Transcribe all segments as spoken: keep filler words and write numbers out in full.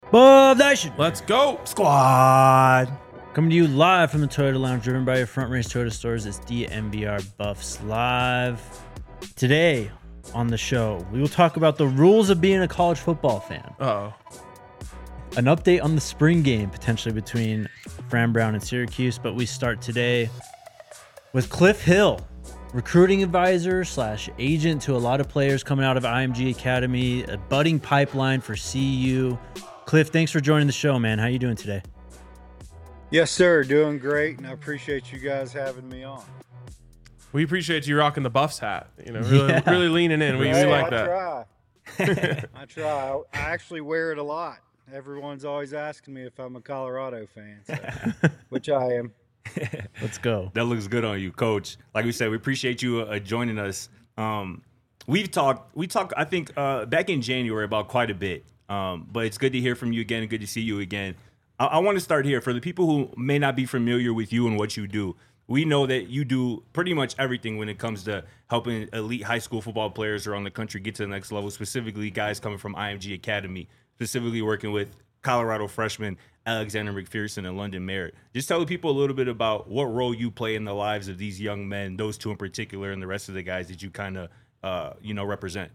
Buff Nation Let's go. Squad. Coming to you live from the Toyota Lounge, driven by your Front Range Toyota stores. It's D M V R Buffs Live. Today on the show, we will talk about the rules of being a college football fan. Uh-oh. An update on the spring game, potentially between Fran Brown and Syracuse. But we start today with Cliff Hill, recruiting advisor slash agent to a lot of players coming out of I M G Academy, a budding pipeline for C U. Cliff, thanks for joining the show, man. How you doing today? Yes, sir. Doing great, and I appreciate you guys having me on. We appreciate you rocking the Buffs hat. You know, really, Yeah. really leaning in. We, we Hey, like I that. Try. I try. I actually wear it a lot. Everyone's always asking me if I'm a Colorado fan, so, which I am. Let's go. That looks good on you, Coach. Like we said, we appreciate you uh, joining us. Um, we've talked, we talked, I think, uh, back in January about quite a bit. Um, but it's good to hear from you again and good to see you again. I, I want to start here. For the people who may not be familiar with you and what you do, we know that you do pretty much everything when it comes to helping elite high school football players around the country get to the next level, specifically guys coming from I M G Academy, specifically working with Colorado freshmen Alexander McPherson and London Merritt. Just tell the people a little bit about what role you play in the lives of these young men, those two in particular, and the rest of the guys that you kind of, uh, you know, represent.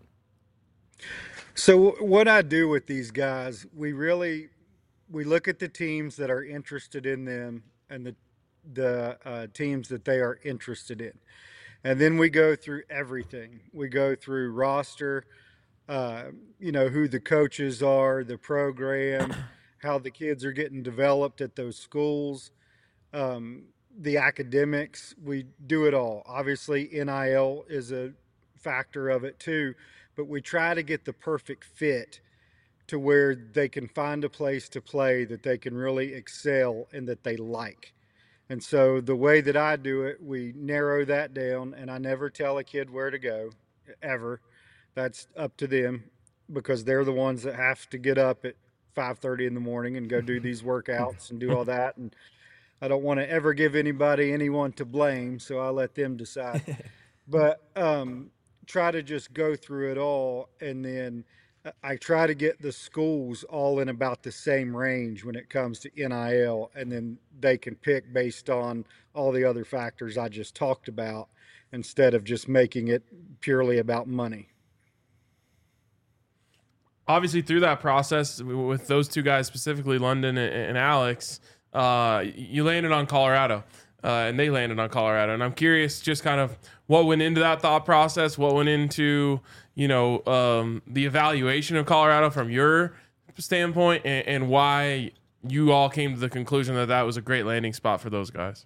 So what I do with these guys, we really we look at the teams that are interested in them and the the uh, teams that they are interested in, and then we go through everything. We go through roster, uh, you know, who the coaches are, the program, how the kids are getting developed at those schools, um, the academics. We do it all. Obviously, N I L is a factor of it too, but we try to get the perfect fit to where they can find a place to play that they can really excel and that they like. And so the way that I do it, we narrow that down, and I never tell a kid where to go, ever. That's up to them because they're the ones that have to get up at five thirty in the morning and go do these workouts and do all that. And I don't want to ever give anybody anyone to blame, so I let them decide. But um, try to just go through it all, and then I try to get the schools all in about the same range when it comes to N I L, and then they can pick based on all the other factors I just talked about instead of just making it purely about money. Obviously, through that process with those two guys, specifically London and, and Alex, uh, you landed on Colorado, uh, and they landed on Colorado. And I'm curious, just kind of what went into that thought process, what went into, you know, um, the evaluation of Colorado from your standpoint, and, and why you all came to the conclusion that that was a great landing spot for those guys.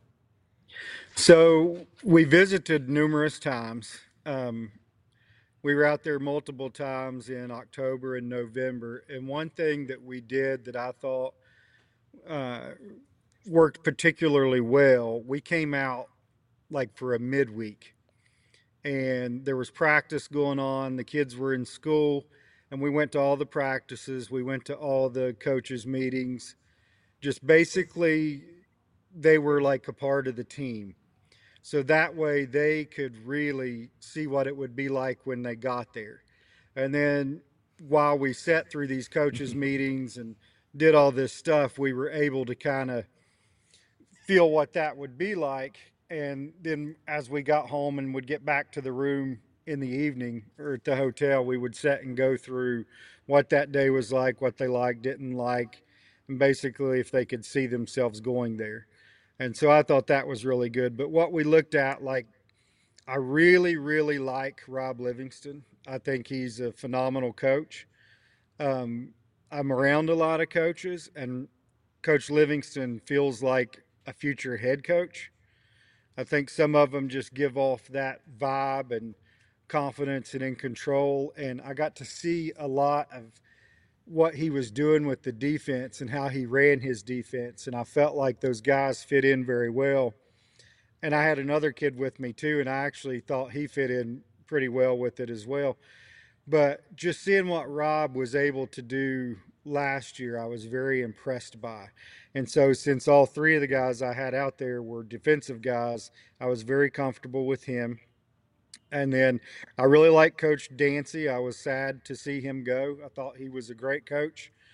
So we visited numerous times. Um, we were out there multiple times in October and November. And one thing that we did that I thought uh, worked particularly well, we came out like for a midweek. And there was practice going on. The kids were in school, and we went to all the practices. We went to all the coaches' meetings. Just basically, they were like a part of the team. So that way they could really see what it would be like when they got there. And then while we sat through these coaches' meetings and did all this stuff, we were able to kind of feel what that would be like. And then as we got home and would get back to the room in the evening or at the hotel, we would sit and go through what that day was like, what they liked, didn't like, and basically if they could see themselves going there. And so I thought that was really good. But what we looked at, like, I really, really like Rob Livingston. I think he's a phenomenal coach. Um, I'm around a lot of coaches, and Coach Livingston feels like a future head coach. I think some of them just give off that vibe and confidence and in control. And I got to see a lot of what he was doing with the defense and how he ran his defense. And I felt like those guys fit in very well. And I had another kid with me too, and I actually thought he fit in pretty well with it as well. But just seeing what Rob was able to do last year, I was very impressed by. And so since all three of the guys I had out there were defensive guys, I was very comfortable with him. And then I really like Coach Dancy. I was sad to see him go. I thought he was a great coach.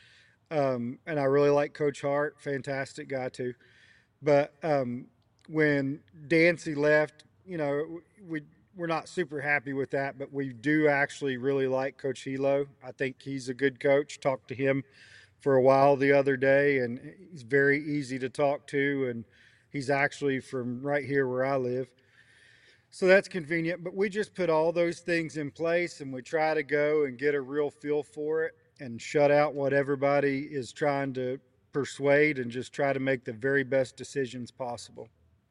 Um, and I really like Coach Hart, fantastic guy too. But um, when Dancy left, you know, we we're not super happy with that, but we do actually really like Coach Hilo. I think he's a good coach. Talked to him for a while the other day, and he's very easy to talk to, and he's actually from right here where I live. So that's convenient, but we just put all those things in place and we try to go and get a real feel for it and shut out what everybody is trying to persuade and just try to make the very best decisions possible.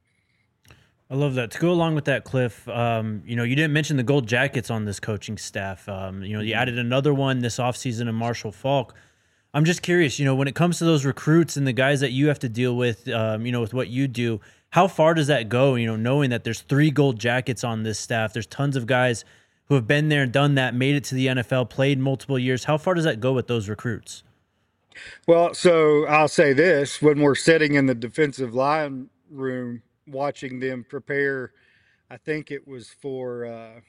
I love that. To go along with that, Cliff, um, you know, you didn't mention the Gold Jackets on this coaching staff. Um, you know, you added another one this offseason in Marshall Falk. I'm just curious, you know, when it comes to those recruits and the guys that you have to deal with, um, you know, with what you do, how far does that go? You know, knowing that there's three Gold Jackets on this staff, there's tons of guys who have been there and done that, made it to the N F L, played multiple years. How far does that go with those recruits? Well, so I'll say this, when we're sitting in the defensive line room watching them prepare, I think it was for, uh,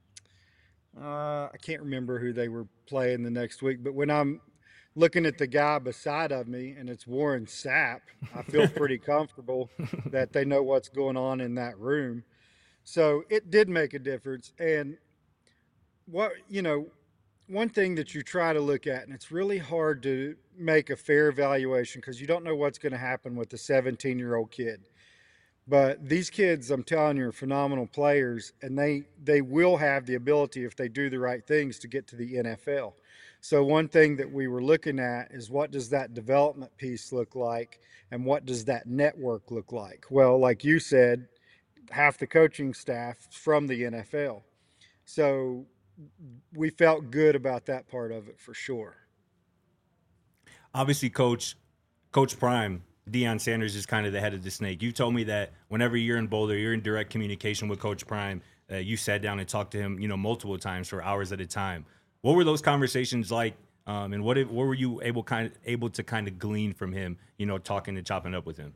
uh, I can't remember who they were playing the next week, but when I'm looking at the guy beside of me and it's Warren Sapp, I feel pretty comfortable that they know what's going on in that room. So it did make a difference. And what, you know, one thing that you try to look at, and it's really hard to make a fair evaluation because you don't know what's going to happen with the seventeen year old kid. But these kids, I'm telling you, are phenomenal players, and they, they will have the ability, if they do the right things, to get to the N F L. So one thing that we were looking at is what does that development piece look like, and what does that network look like? Well, like you said, half the coaching staff from the N F L. So we felt good about that part of it for sure. Obviously, Coach Coach Prime, Deion Sanders is kind of the head of the snake. You told me that whenever you're in Boulder, you're in direct communication with Coach Prime. Uh, you sat down and talked to him, you know, multiple times for hours at a time. What were those conversations like, um, and what what were you able kind of able to kind of glean from him, you know, talking and chopping up with him?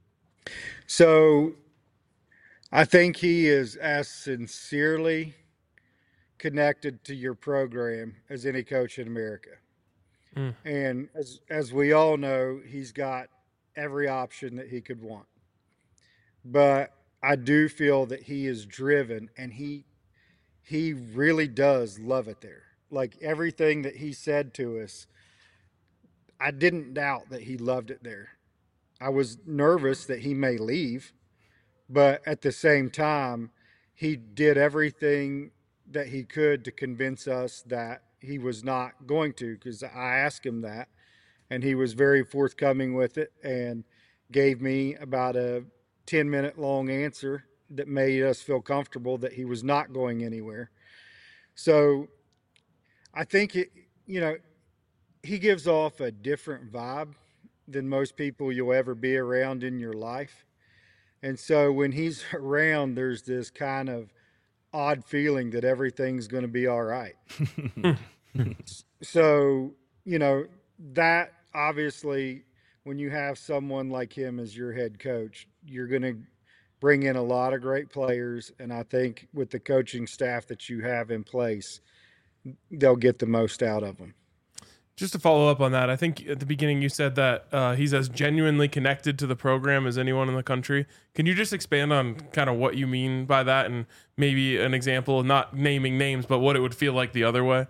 So I think he is as sincerely connected to your program as any coach in America. Mm. And as as we all know, he's got every option that he could want. But I do feel that he is driven, and he he really does love it there. Like everything that he said to us, I didn't doubt that he loved it there. I was nervous that he may leave, but at the same time, he did everything that he could to convince us that he was not going to, because I asked him that, and he was very forthcoming with it and gave me about a ten minute long answer that made us feel comfortable that he was not going anywhere. So I think, it, you know, he gives off a different vibe than most people you'll ever be around in your life. And so when he's around, there's this kind of odd feeling that everything's going to be all right. So, you know, that obviously, when you have someone like him as your head coach, you're going to bring in a lot of great players. And I think with the coaching staff that you have in place, they'll get the most out of them. Just to follow up on that, I think at the beginning you said that uh, he's as genuinely connected to the program as anyone in the country. Can you just expand on kind of what you mean by that, and maybe an example, not naming names, but what it would feel like the other way?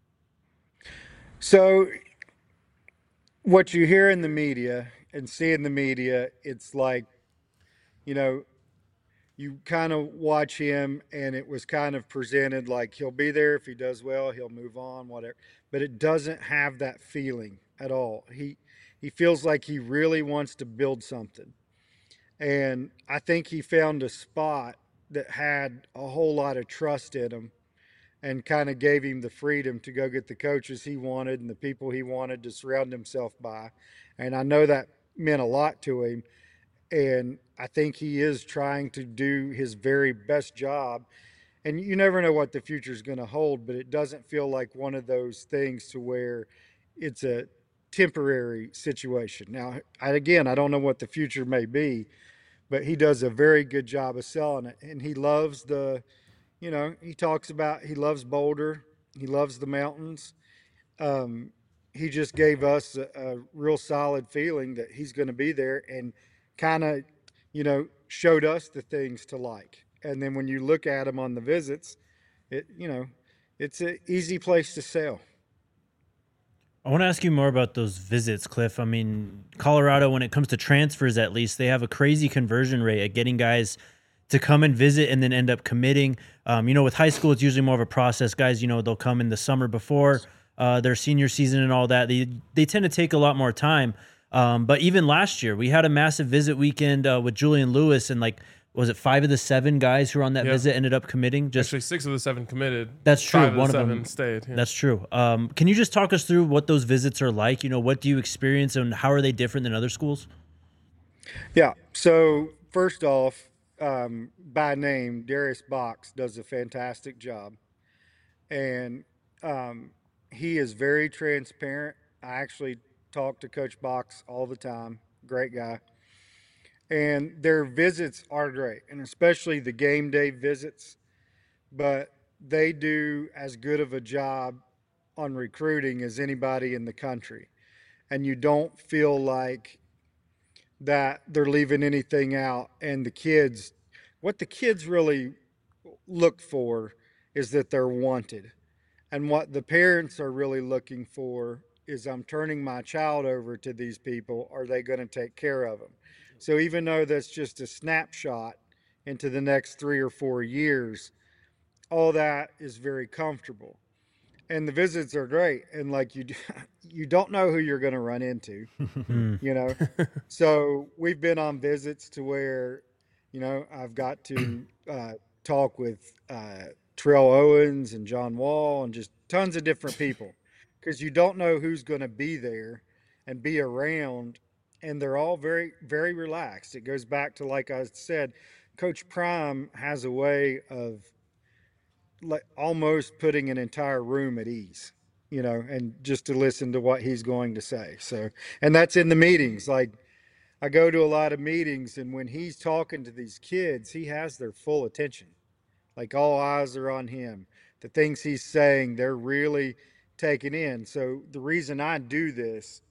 So what you hear in the media and see in the media, it's like, you know, you kind of watch him and it was kind of presented like he'll be there. If he does well, he'll move on, whatever. But it doesn't have that feeling at all. He he feels like he really wants to build something. And I think he found a spot that had a whole lot of trust in him and kind of gave him the freedom to go get the coaches he wanted and the people he wanted to surround himself by. And I know that meant a lot to him. And I think he is trying to do his very best job. And you never know what the future is going to hold, but it doesn't feel like one of those things to where it's a temporary situation. Now, I, again, I don't know what the future may be, but he does a very good job of selling it. And he loves the, you know, he talks about, he loves Boulder. He loves the mountains. Um, he just gave us a, a real solid feeling that he's going to be there and kind of, you know, showed us the things to like. And then when you look at him on the visits, it, you know, it's an easy place to sell. I want to ask you more about those visits, Cliff. I mean, Colorado, when it comes to transfers, at least, they have a crazy conversion rate at getting guys to come and visit and then end up committing. Um, you know, with high school, it's usually more of a process. Guys, you know, they'll come in the summer before uh, their senior season and all that. They they tend to take a lot more time. Um, but even last year, we had a massive visit weekend uh, with Julian Lewis, and like, was it five of the seven guys who were on that Yep. visit ended up committing? Just Actually, six of the seven committed. That's true. Five of One the of seven them stayed. Yeah. That's true. Um, can you just talk us through what those visits are like? You know, what do you experience and how are they different than other schools? Yeah. So first off, um, by name, Darius Box does a fantastic job, and um, he is very transparent. I actually talk to Coach Box all the time. Great guy. And their visits are great, and especially the game day visits. But they do as good of a job on recruiting as anybody in the country, and you don't feel like that they're leaving anything out. And the kids, what the kids really look for is that they're wanted. And what the parents are really looking for is, I'm turning my child over to these people. Are they going to take care of them? So even though that's just a snapshot into the next three or four years, all that is very comfortable. And the visits are great. And like you, you don't know who you're going to run into, you know? So we've been on visits to where, you know, I've got to uh, talk with uh, Terrell Owens and John Wall and just tons of different people, because you don't know who's going to be there and be around. And they're all very, very relaxed. It goes back to, like I said, Coach Prime has a way of like almost putting an entire room at ease, you know, and just to listen to what he's going to say. So, and that's in the meetings. Like, I go to a lot of meetings, and when he's talking to these kids, he has their full attention. Like, all eyes are on him. The things he's saying, they're really taking in. So the reason I do this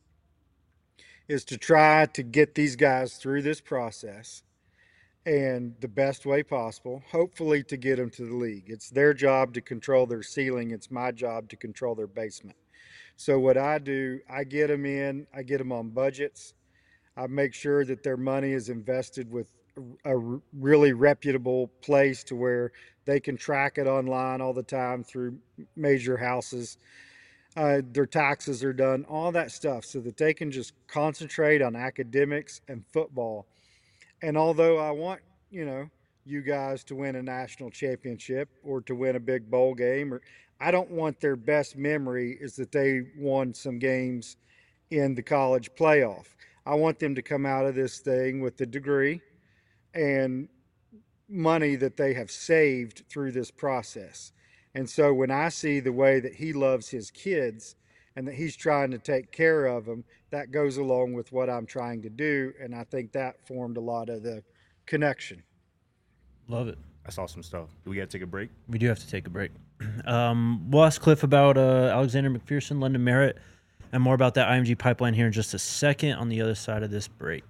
is to try to get these guys through this process and the best way possible, hopefully to get them to the league. It's their job to control their ceiling. It's my job to control their basement. So what I do, I get them in, I get them on budgets. I make sure that their money is invested with a really reputable place to where they can track it online all the time through major houses. Uh, their taxes are done, all that stuff, so that they can just concentrate on academics and football. And although I want, you know, you guys to win a national championship or to win a big bowl game, or I don't want their best memory is that they won some games in the college playoff. I want them to come out of this thing with a degree and money that they have saved through this process. And so when I see the way that he loves his kids and that he's trying to take care of them, that goes along with what I'm trying to do. And I think that formed a lot of the connection. Love it. That's awesome stuff. Do we got to take a break? We do have to take a break. Um, we'll ask Cliff about uh, Alexander McPherson, London Merritt, and more about that I M G pipeline here in just a second on the other side of this break.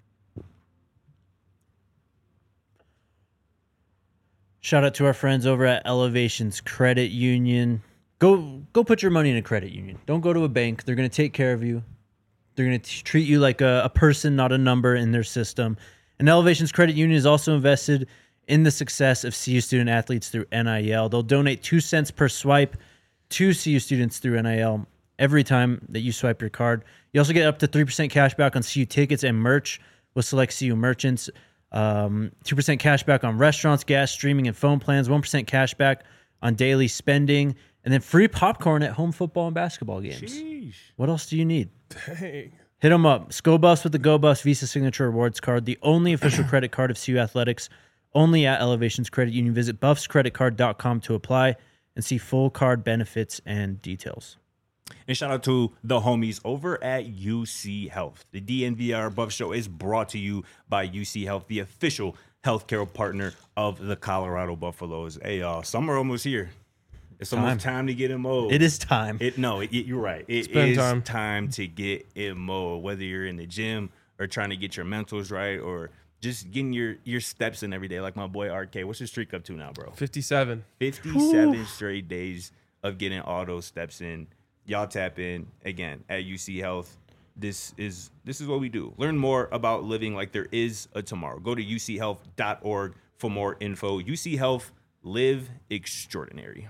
Shout out to our friends over at Elevations Credit Union. Go go put your money in a credit union. Don't go to a bank. They're going to take care of you. They're going to treat you like a, a person, not a number in their system. And Elevations Credit Union is also invested in the success of C U student athletes through N I L. They'll donate two cents per swipe to C U students through N I L every time that you swipe your card. You also get up to three percent cash back on C U tickets and merch with select C U merchants. Um, two percent cash back on restaurants, gas, streaming, and phone plans. one percent cash back on daily spending. And then free popcorn at home football and basketball games. Sheesh. What else do you need? Dang. Hit them up. ScoBuffs with the GoBuffs Visa Signature Rewards Card, the only official credit card of C U Athletics, only at Elevations Credit Union. Visit buffs credit card dot com to apply and see full card benefits and details. And shout out to the homies over at U C Health. The D N V R Buff Show is brought to you by U C Health, the official healthcare partner of the Colorado Buffaloes. Hey, y'all, summer almost here. It's almost Time. time to get in mode. It is time. It no, it, you're right. It Spend is time. time to get in mode. Whether you're in the gym or trying to get your mentals right, or just getting your your steps in every day. Like my boy R K, what's his streak up to now, bro? fifty-seven. fifty-seven straight days of getting all those steps in. Y'all tap in again at U C Health. This is this is what we do. Learn more about living like there is a tomorrow. Go to u c health dot org for more info. U C Health, live extraordinary.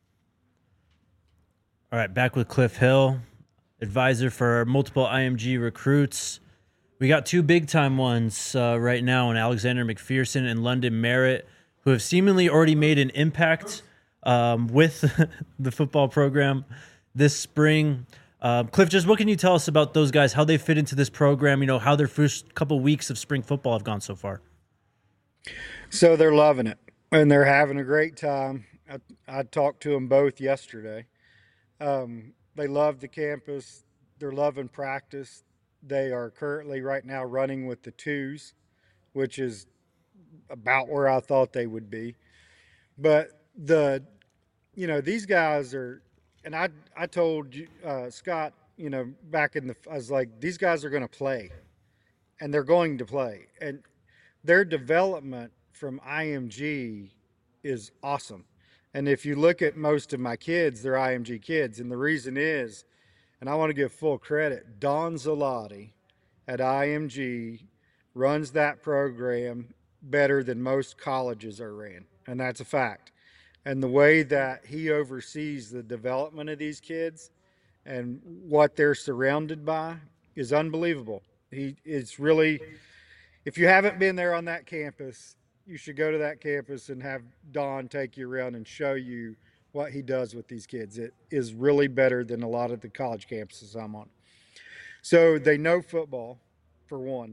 All right, back with Cliff Hill, advisor for multiple I M G recruits. We got two big-time ones uh, right now in Alexander McPherson and London Merritt, who have seemingly already made an impact um, with the football program this spring. Uh, Cliff, just what can you tell us about those guys, how they fit into this program, you know, how their first couple weeks of spring football have gone so far? So they're loving it, and they're having a great time. I, I talked to them both yesterday. Um, they love the campus. They're loving practice. They are currently right now running with the twos, which is about where I thought they would be. But the, you know, these guys are, and I, I told uh, Scott, you know, back in the, I was like, these guys are going to play, and they're going to play. And their development from I M G is awesome. And if you look at most of my kids, they're I M G kids. And the reason is, and I want to give full credit, Don Zalotti at I M G runs that program better than most colleges are ran. And that's a fact. And the way that he oversees the development of these kids and what they're surrounded by is unbelievable. He is really, if you haven't been there on that campus, you should go to that campus and have Don take you around and show you what he does with these kids. It is really better than a lot of the college campuses I'm on. So they know football, for one,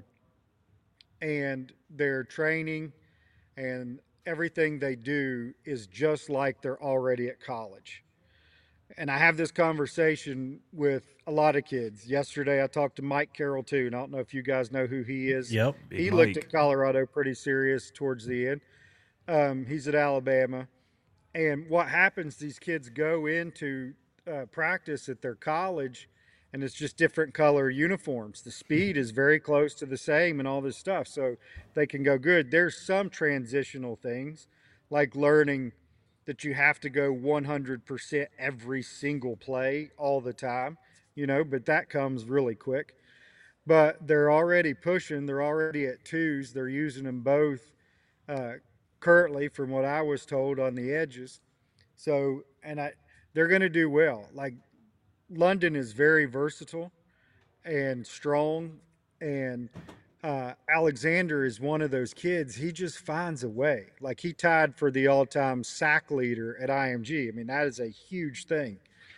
and their training and everything they do is just like they're already at college. And I have this conversation with a lot of kids. Yesterday, I talked to Mike Carroll, too, and I don't know if you guys know who he is. Yep. Big He Mike. looked at Colorado pretty serious towards the end. Um, he's at Alabama. And what happens, these kids go into uh, practice at their college, and it's just different color uniforms. The speed is very close to the same and all this stuff, so they can go good. There's some transitional things, like learning that you have to go one hundred percent every single play all the time, you know, but that comes really quick. But they're already pushing. They're already at twos. They're using them both uh, currently, from what I was told, on the edges. So, and I, they're going to do well. Like, London is very versatile and strong, and uh, Alexander is one of those kids. He just finds a way. Like, he tied for the all-time sack leader at I M G. I mean, that is a huge thing.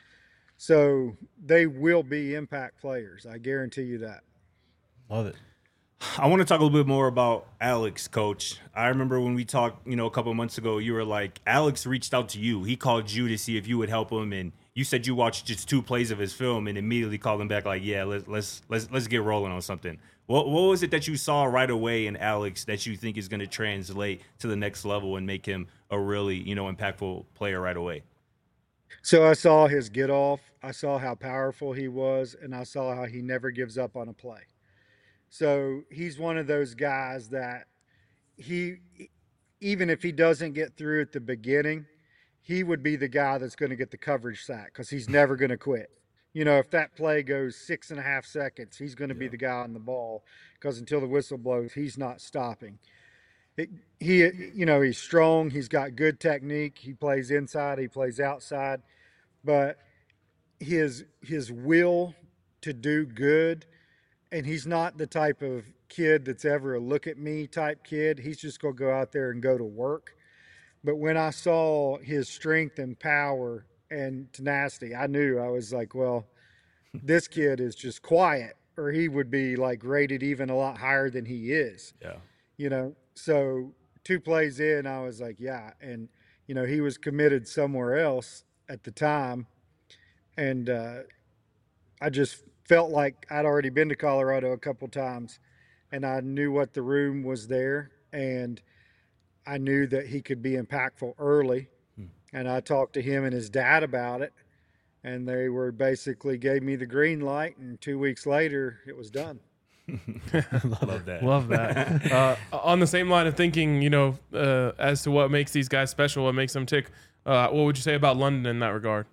So they will be impact players. I guarantee you that. Love it. I want to talk a little bit more about Alex, Coach. I remember when we talked, you know, a couple of months ago, you were like, Alex reached out to you. He called you to see if you would help him, and you said you watched just two plays of his film and immediately called him back like, yeah, let's let's let's let's get rolling on something. What what was it that you saw right away in Alex that you think is going to translate to the next level and make him a really, you know, impactful player right away? So I saw his get off. I saw how powerful he was, and I saw how he never gives up on a play. So he's one of those guys that he, even if he doesn't get through at the beginning, he would be the guy that's going to get the coverage sack because he's never going to quit. You know, if that play goes six and a half seconds, he's going to be the guy on the ball because until the whistle blows, he's not stopping. It, he, you know, he's strong. He's got good technique. He plays inside. He plays outside. But his his will to do good, and he's not the type of kid that's ever a look at me type kid. He's just going to go out there and go to work. But when I saw his strength and power and tenacity, I knew. I was like, well, this kid is just quiet, or he would be like rated even a lot higher than he is. Yeah. You know, so two plays in, I was like, yeah. And, you know, he was committed somewhere else at the time. And uh, I just felt like I'd already been to Colorado a couple times, and I knew what the room was there, and I knew that he could be impactful early. And I talked to him and his dad about it, and they were basically gave me the green light. And two weeks later, it was done. Love that. Love that. uh, on the same line of thinking, you know, uh, as to what makes these guys special, what makes them tick, uh, what would you say about London in that regard?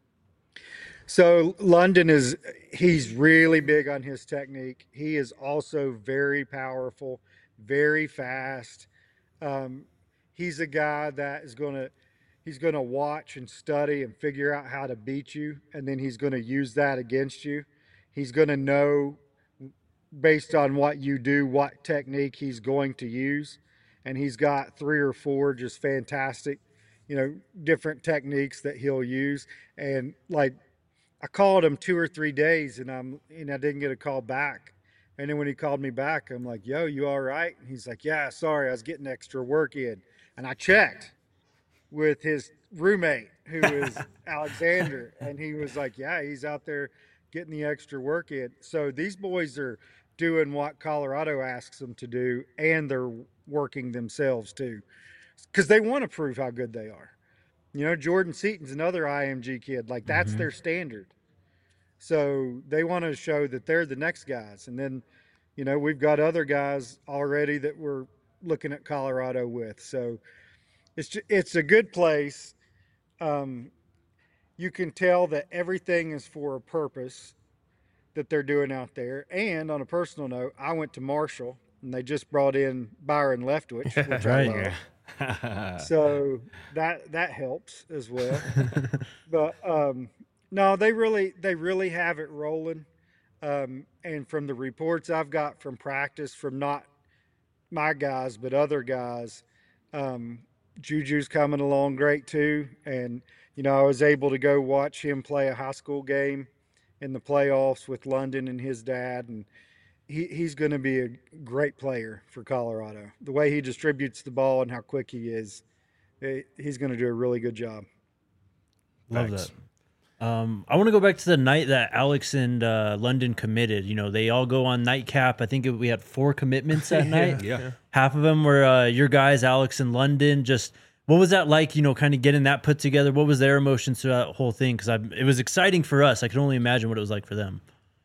So London is, he's really big on his technique. He is also very powerful, very fast. Um, he's a guy that is going to, he's going to watch and study and figure out how to beat you. And then he's going to use that against you. He's going to know based on what you do, what technique he's going to use. And he's got three or four just fantastic, you know, different techniques that he'll use. And like, I called him two or three days and I'm, and I didn't get a call back. And then when he called me back, I'm like, yo, you all right? And he's like, yeah, sorry, I was getting extra work in. And I checked with his roommate, who is Alexander. And he was like, yeah, he's out there getting the extra work in. So these boys are doing what Colorado asks them to do, and they're working themselves too, because they want to prove how good they are. You know, Jordan Seaton's another I M G kid. Like, that's mm-hmm. their standard. So they want to show that they're the next guys. And then, you know, we've got other guys already that we're looking at Colorado with. So it's just, it's a good place. Um, you can tell that everything is for a purpose that they're doing out there. And on a personal note, I went to Marshall, and they just brought in Byron Leftwich, which right. I love. So that that helps as well. But um, no, they really they really have it rolling. Um, and from the reports I've got from practice, from not my guys but other guys, um, Juju's coming along great too. And you know, I was able to go watch him play a high school game in the playoffs with London and his dad, and He, he's going to be a great player for Colorado. The way he distributes the ball and how quick he is, it, he's going to do a really good job. Love Thanks. that. Um, I want to go back to the night that Alex and uh, London committed. You know, they all go on nightcap. I think it, we had four commitments that night. yeah. yeah. Half of them were uh, your guys, Alex and London. Just what was that like, you know, kind of getting that put together? What was their emotions through that whole thing? Because it was exciting for us. I could only imagine what it was like for them.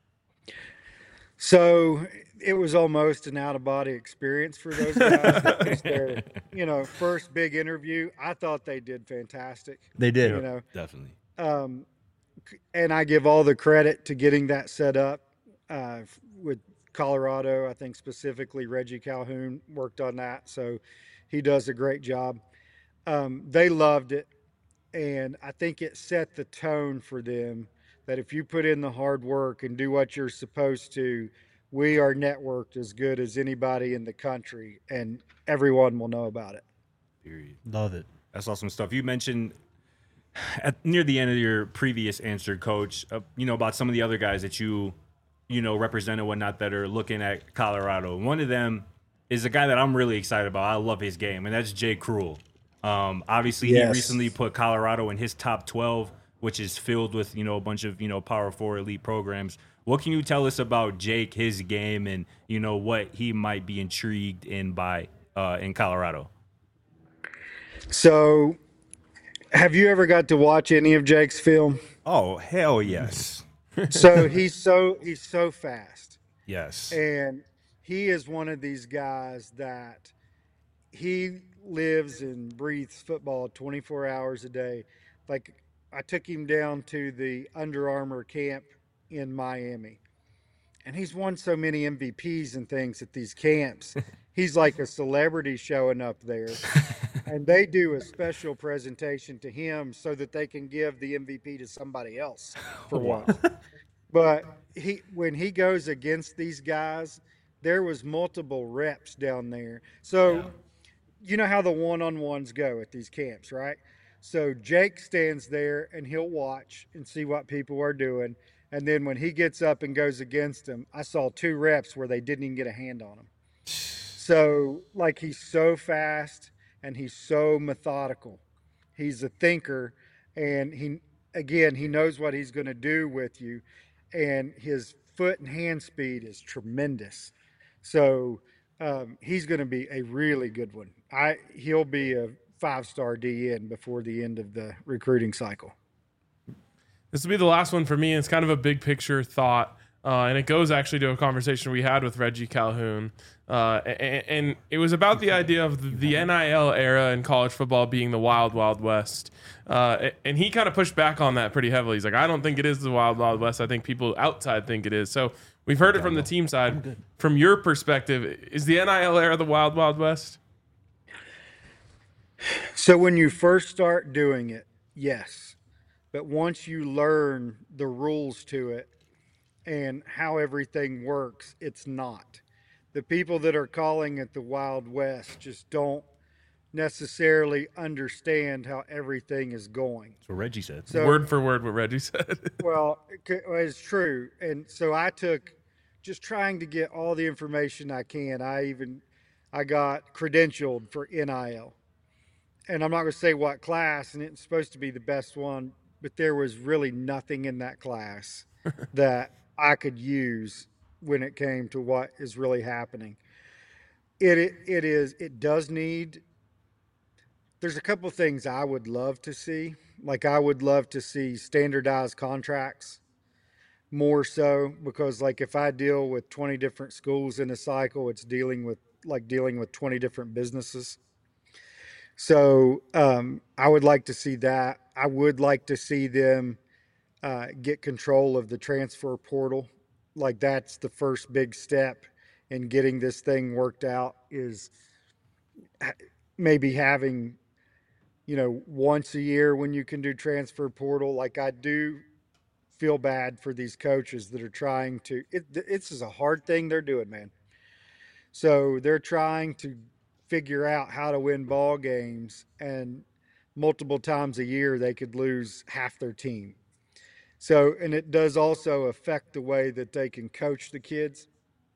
So it was almost an out-of-body experience for those guys. That was their, you know, first big interview. I thought they did fantastic. They did, you know, definitely. Um, and I give all the credit to getting that set up uh, with Colorado. I think specifically Reggie Calhoun worked on that, so he does a great job. Um, they loved it, and I think it set the tone for them. That if you put in the hard work and do what you're supposed to, we are networked as good as anybody in the country, and everyone will know about it. Period. Love it. That's awesome stuff. You mentioned at near the end of your previous answer, Coach, uh, you know, about some of the other guys that you, you know, represent and whatnot that are looking at Colorado. One of them is a guy that I'm really excited about. I love his game, and that's Jay Cruel. Um, obviously, yes. He recently put Colorado in his top twelve, which is filled with, you know, a bunch of, you know, Power Four elite programs. What can you tell us about Jake, his game, and, you know, what he might be intrigued in by uh, in Colorado? So, have you ever got to watch any of Jake's film? Oh, hell yes. So he's so he's so fast. Yes. And he is one of these guys that he lives and breathes football twenty-four hours a day. Like, I took him down to the Under Armour camp in Miami, and he's won so many M V Ps and things at these camps. He's like a celebrity showing up there, and they do a special presentation to him so that they can give the M V P to somebody else for wow. once. But he, when he goes against these guys, there was multiple reps down there. So, yeah. You know how the one-on-ones go at these camps, right? So Jake stands there and he'll watch and see what people are doing. And then when he gets up and goes against them, I saw two reps where they didn't even get a hand on him. So, like, he's so fast and he's so methodical. He's a thinker, and he, again, he knows what he's going to do with you. And his foot and hand speed is tremendous. So um, he's going to be a really good one. I He'll be a five-star D in before the end of the recruiting cycle. This will be the last one for me. It's kind of a big picture thought, uh, and it goes actually to a conversation we had with Reggie Calhoun. Uh, and, and it was about the idea of the N I L era in college football being the wild, wild west. Uh, and he kind of pushed back on that pretty heavily. He's like, I don't think it is the wild, wild west. I think people outside think it is. So we've heard it from the team side. From your perspective, is the N I L era the wild, wild west? So when you first start doing it, yes. But once you learn the rules to it and how everything works, it's not. The people that are calling it the Wild West just don't necessarily understand how everything is going. That's what Reggie said. So, Word for word what Reggie said. well, it's true. And so I took just trying to get all the information I can. I even, I got credentialed for N I L. And I'm not going to say what class, and it's supposed to be the best one, but there was really nothing in that class that I could use when it came to what is really happening. It, it it is it does need. There's a couple of things I would love to see. Like I would love to see standardized contracts more so, because like if I deal with twenty different schools in a cycle, it's dealing with like dealing with twenty different businesses. So um, I would like to see that. I would like to see them uh, get control of the transfer portal. Like that's the first big step in getting this thing worked out, is maybe having, you know, once a year when you can do transfer portal. Like I do feel bad for these coaches that are trying to, it, this is a hard thing they're doing, man. So they're trying to figure out how to win ball games, and multiple times a year they could lose half their team. So, and it does also affect the way that they can coach the kids.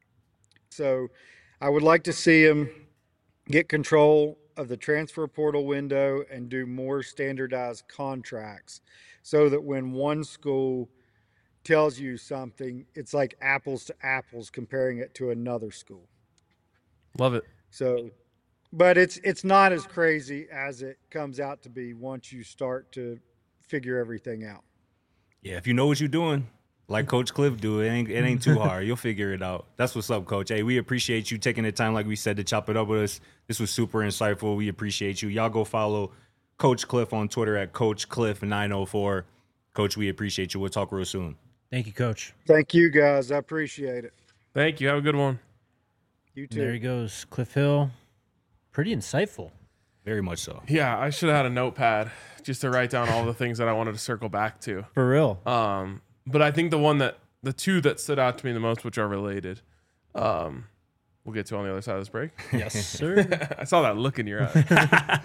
So I would like to see them get control of the transfer portal window and do more standardized contracts, so that when one school tells you something, it's like apples to apples comparing it to another school. Love it. So, but it's it's not as crazy as it comes out to be once you start to figure everything out. Yeah, if you know what you're doing, like Coach Cliff do, it ain't it ain't too hard. You'll figure it out. That's what's up, Coach. Hey, we appreciate you taking the time, like we said, to chop it up with us. This was super insightful. We appreciate you. Y'all go follow Coach Cliff on Twitter at Coach Cliff nine oh four. Coach, we appreciate you. We'll talk real soon. Thank you, Coach. Thank you, guys. I appreciate it. Thank you. Have a good one. You too. There he goes, Cliff Hill. Pretty insightful. Very much so. Yeah, I should have had a notepad just to write down all the things that I wanted to circle back to. For real. Um, but I think the one that the two that stood out to me the most, which are related, um, we'll get to on the other side of this break. Yes, sir. I saw that look in your eye.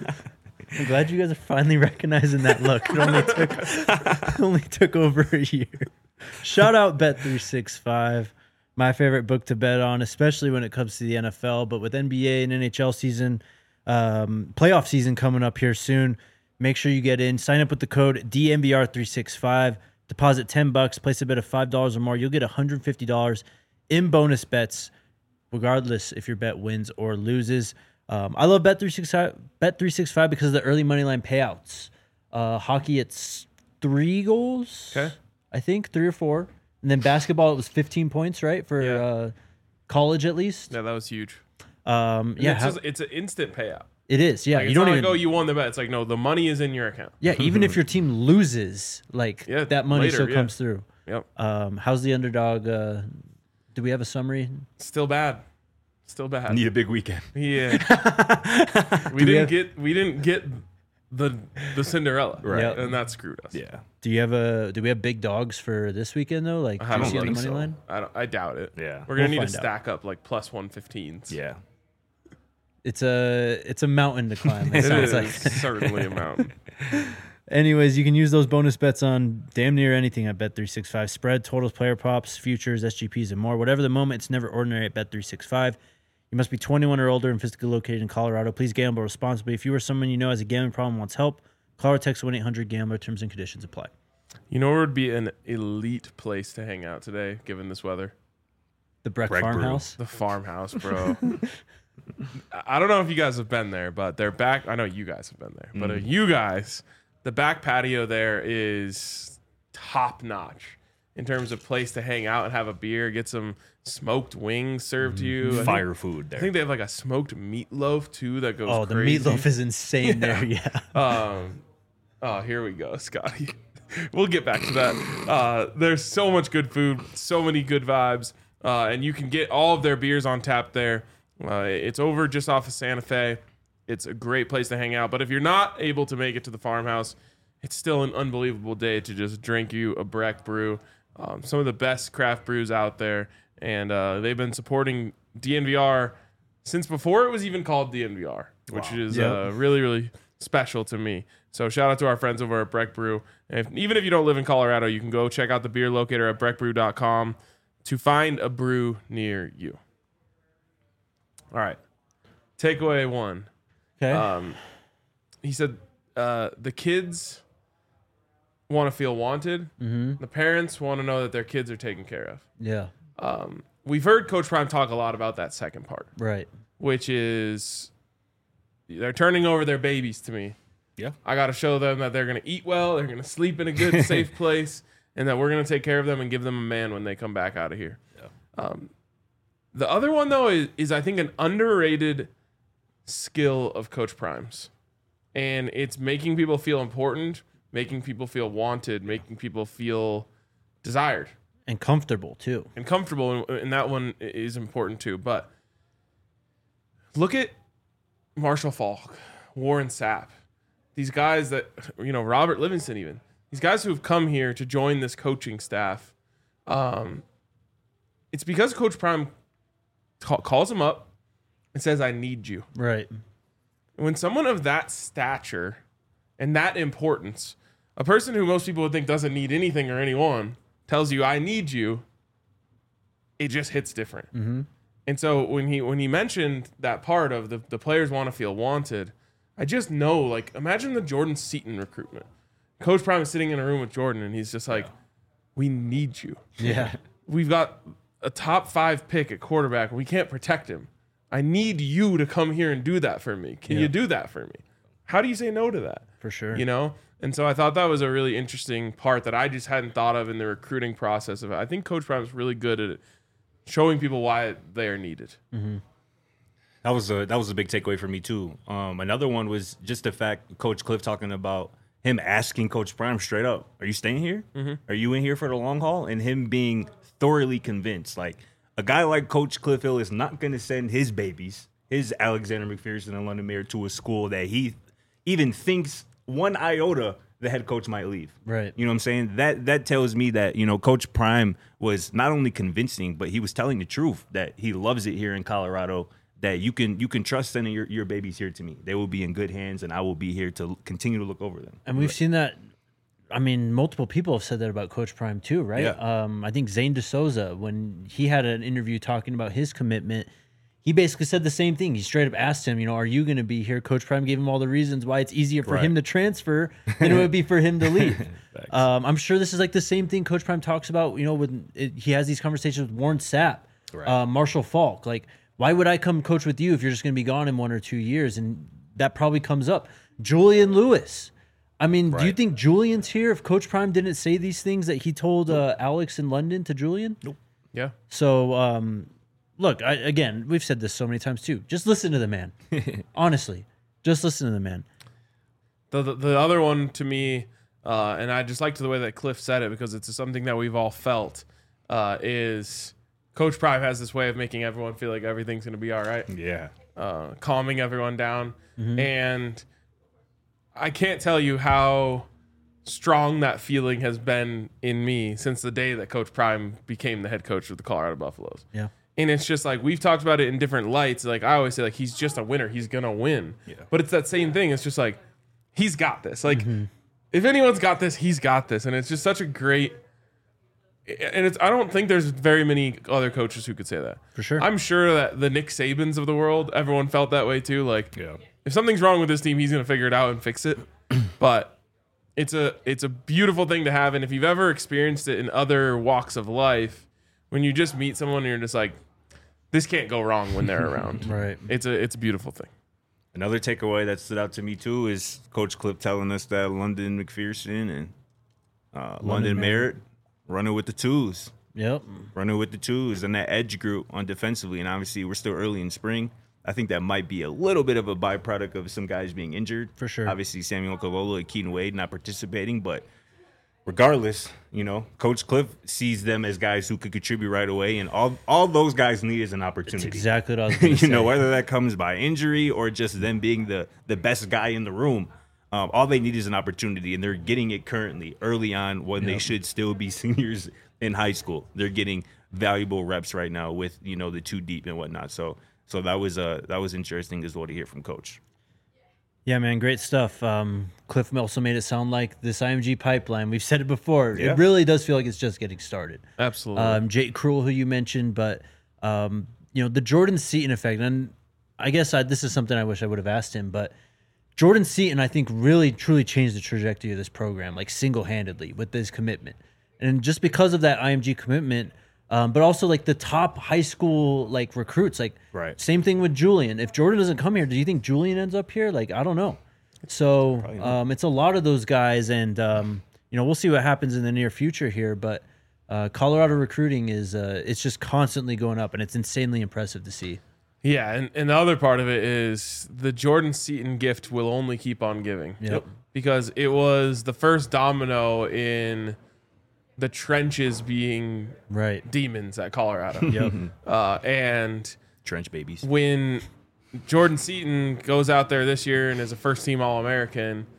I'm glad you guys are finally recognizing that look. It only took it only took over a year. Shout out Bet three sixty-five, my favorite book to bet on, especially when it comes to the N F L. But with N B A and N H L season, um, playoff season coming up here soon, make sure you get in. Sign up with the code D M V R three sixty-five. Deposit ten bucks. Place a bet of five dollars or more. You'll get one hundred fifty dollars in bonus bets, regardless if your bet wins or loses. Um, I love Bet three sixty-five, Bet three sixty-five because of the early money line payouts. Uh, hockey, it's three goals. Okay. I think three or four. And then basketball, it was fifteen points, right? For Yeah. uh, college, at least. Yeah, that was huge. Um, And yeah, it's, how- just, it's an instant payout. it is. Yeah, Like, you it's don't not even. like, oh, you won the bet. It's like, no, the money is in your account. yeah, even if your team loses, like Yeah, that money later, still yeah. comes through. Yep. Um, how's the underdog? Uh, do we have a summary? Still bad. Still bad. Need a big weekend. Yeah. we Do we didn't have- get we didn't get the the Cinderella. Right. Yep. And that screwed us. Yeah. Do you have a? Do we have big dogs for this weekend though? Like, I do you don't see on the think money so. line? I don't I doubt it. Yeah. We're gonna We'll need to find out. stack up like plus one fifteens. Yeah. It's a it's a mountain to climb. It It sounds is like. certainly a mountain. Anyways, you can use those bonus bets on damn near anything at Bet three sixty-five. Spread, totals, player props, futures, S G Ps, and more. Whatever the moment, it's never ordinary at Bet three sixty-five. You must be twenty-one or older and physically located in Colorado. Please gamble responsibly. If you or someone you know has a gambling problem and wants help, call or text one eight hundred gambler. Terms and conditions apply. You know where would be an elite place to hang out today, given this weather? The Breck Breck Brew. Farmhouse. The farmhouse, bro. I don't know if you guys have been there, but their back. I know you guys have been there, but uh, Mm. you guys, the back patio there is top notch in terms of place to hang out and have a beer, get some smoked wings served to you. I think- Fire food there. I think they have like a smoked meatloaf too that goes Oh, the crazy. meatloaf is insane there. Yeah. Um, oh, here we go, Scotty. We'll get back to that. Uh, there's so much good food, so many good vibes, uh, and you can get all of their beers on tap there. Uh, it's over just off of Santa Fe. It's a great place to hang out. But if you're not able to make it to the farmhouse, it's still an unbelievable day to just drink you a Breck brew. Um, some of the best craft brews out there, and uh, they've been supporting D N V R since before it was even called D N V R, which is Yep. uh, really, really special to me. So shout out to our friends over at Breck Brew. And if, even if you don't live in Colorado, you can go check out the beer locator at breck brew dot com to find a brew near you. All right. Takeaway one. Okay. Um, he said uh, the kids want to feel wanted. mm-hmm. The parents want to know that their kids are taken care of. Yeah. Um, we've heard Coach Prime talk a lot about that second part, Right. which is they're turning over their babies to me. Yeah. I got to show them that they're going to eat well, they're going to sleep in a good, safe place, and that we're going to take care of them and give them a man when they come back out of here. Yeah. Um, the other one, though, is, is I think an underrated skill of Coach Prime's. And it's making people feel important, making people feel wanted, making people feel desired And comfortable too. and comfortable. And, and that one is important, too. But look at Marshall Falk, Warren Sapp. These guys that, you know, Robert Livingston even. These guys who have come here to join this coaching staff. Um, it's because Coach Prime ca- calls them up and says, I need you. Right. When someone of that stature and that importance, a person who most people would think doesn't need anything or anyone, tells you, I need you, it just hits different. Mm-hmm. And so when he when he mentioned that part of the, the players want to feel wanted, I just know, like, imagine the Jordan Seaton recruitment. Coach Prime is sitting in a room with Jordan, and he's just like, we need you. Yeah. We've got a top five pick at quarterback. We can't protect him. I need you to come here and do that for me. Can Yeah. you do that for me? How do you say no to that? For sure. You know? And so I thought that was a really interesting part that I just hadn't thought of in the recruiting process of it. I think Coach Prime is really good at showing people why they are needed. Mm-hmm. That was a that was a big takeaway for me too. Um, another one was just the fact Coach Cliff talking about him asking Coach Prime straight up, "Are you staying here? Mm-hmm. Are you in here for the long haul?" And him being thoroughly convinced, like a guy like Coach Cliff Hill is not going to send his babies, his Alexander McPherson and London Mayer, to a school that he even thinks one iota the head coach might leave. Right. You know what I'm saying? That that tells me that, you know, Coach Prime was not only convincing, but he was telling the truth that he loves it here in Colorado, that you can you can trust sending your, your babies here to me. They will be in good hands, and I will be here to continue to look over them. And we've seen that. I mean, multiple people have said that about Coach Prime too, right? Yeah. Um, I think Zane DeSouza, when he had an interview talking about his commitment, he basically said the same thing. He straight up asked him, you know, are you going to be here? Coach Prime gave him all the reasons why it's easier for Right. him to transfer than it would be for him to leave. um, I'm sure this is like the same thing Coach Prime talks about, you know, when it, he has these conversations with Warren Sapp, Right. uh, Marshall Falk. Like, why would I come coach with you if you're just going to be gone in one or two years? And that probably comes up. Julian Lewis. I mean, do you Right. think Julian's here if Coach Prime didn't say these things that he told uh, Alex in London to Julian? Nope. Yeah. So, um, look, I, again, we've said this so many times too. Just listen to the man. Honestly, just listen to the man. The, the the other one to me, uh, and I just liked the way that Cliff said it because it's something that we've all felt, uh, is Coach Prime has this way of making everyone feel like everything's going to be all right, Yeah. uh, calming everyone down. And I can't tell you how strong that feeling has been in me since the day that Coach Prime became the head coach of the Colorado Buffaloes. Yeah. And it's just like we've talked about it in different lights. Like I always say, like he's just a winner. He's gonna win. Yeah. But it's that same thing. It's just like he's got this. Like if anyone's got this, he's got this. And it's just such a great. And it's I don't think there's very many other coaches who could say that. For sure. I'm sure that the Nick Sabans of the world, everyone felt that way too. Like Yeah. if something's wrong with this team, he's gonna figure it out and fix it. But it's a it's a beautiful thing to have. And if you've ever experienced it in other walks of life, when you just meet someone and you're just like, this can't go wrong when they're around. Right. It's a it's a beautiful thing. Another takeaway that stood out to me too is Coach Cliff telling us that London McPherson and uh, London, London Merritt running with the twos. Yep. Running with the twos and that edge group on defensively. And obviously we're still early in spring. I think that might be a little bit of a byproduct of some guys being injured. For sure. Obviously Samuel Kalola and Keaton Wade not participating, but regardless, you know, Coach Cliff sees them as guys who could contribute right away, and all all those guys need is an opportunity. That's exactly what I was going to you say. know, whether that comes by injury or just them being the the best guy in the room, um, all they need is an opportunity, and they're getting it currently, early on, when yep. they should still be seniors in high school. They're getting valuable reps right now with, you know, the two deep and whatnot. So, so that was uh that was interesting as well to hear from Coach. Yeah, man, great stuff. Um, Cliff also made it sound like this I M G pipeline, we've said it before, yeah. it really does feel like it's just getting started. Absolutely. Um, Jake Cruel, who you mentioned, but, um, you know, the Jordan Seaton effect, and I guess I, this is something I wish I would have asked him, but Jordan Seaton, I think, really, truly changed the trajectory of this program, like single-handedly with his commitment. And just because of that I M G commitment, Um, but also like the top high school like recruits, like right. same thing with Julian. If Jordan doesn't come here, do you think Julian ends up here? Like I don't know. So um, it's a lot of those guys, and um, you know we'll see what happens in the near future here. But uh, Colorado recruiting is uh, it's just constantly going up, and it's insanely impressive to see. Yeah, and, and the other part of it is the Jordan Seaton gift will only keep on giving. Yep. Because it was the first domino in the trenches being right demons at Colorado. Yep. Uh, and trench babies. When Jordan Seaton goes out there this year and is a first-team All-American,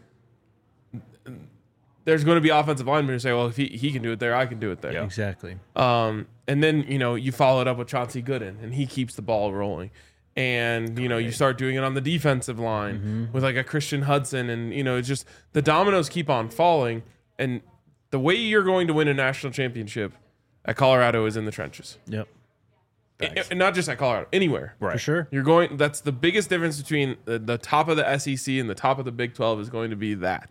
there's going to be offensive linemen who say, well, if he, he can do it there, I can do it there. Yeah. Exactly. Um, and then, you know, you follow it up with Chauncey Gooden, and he keeps the ball rolling. And, you know, you start doing it on the defensive line mm-hmm. with, like, a Christian Hudson. And, you know, it's just the dominoes keep on falling. And the way you're going to win a national championship at Colorado is in the trenches. Yep. It, and not just at Colorado, anywhere. Right. For sure. You're going. That's the biggest difference between the, the top of the S E C and the top of the Big twelve is going to be that.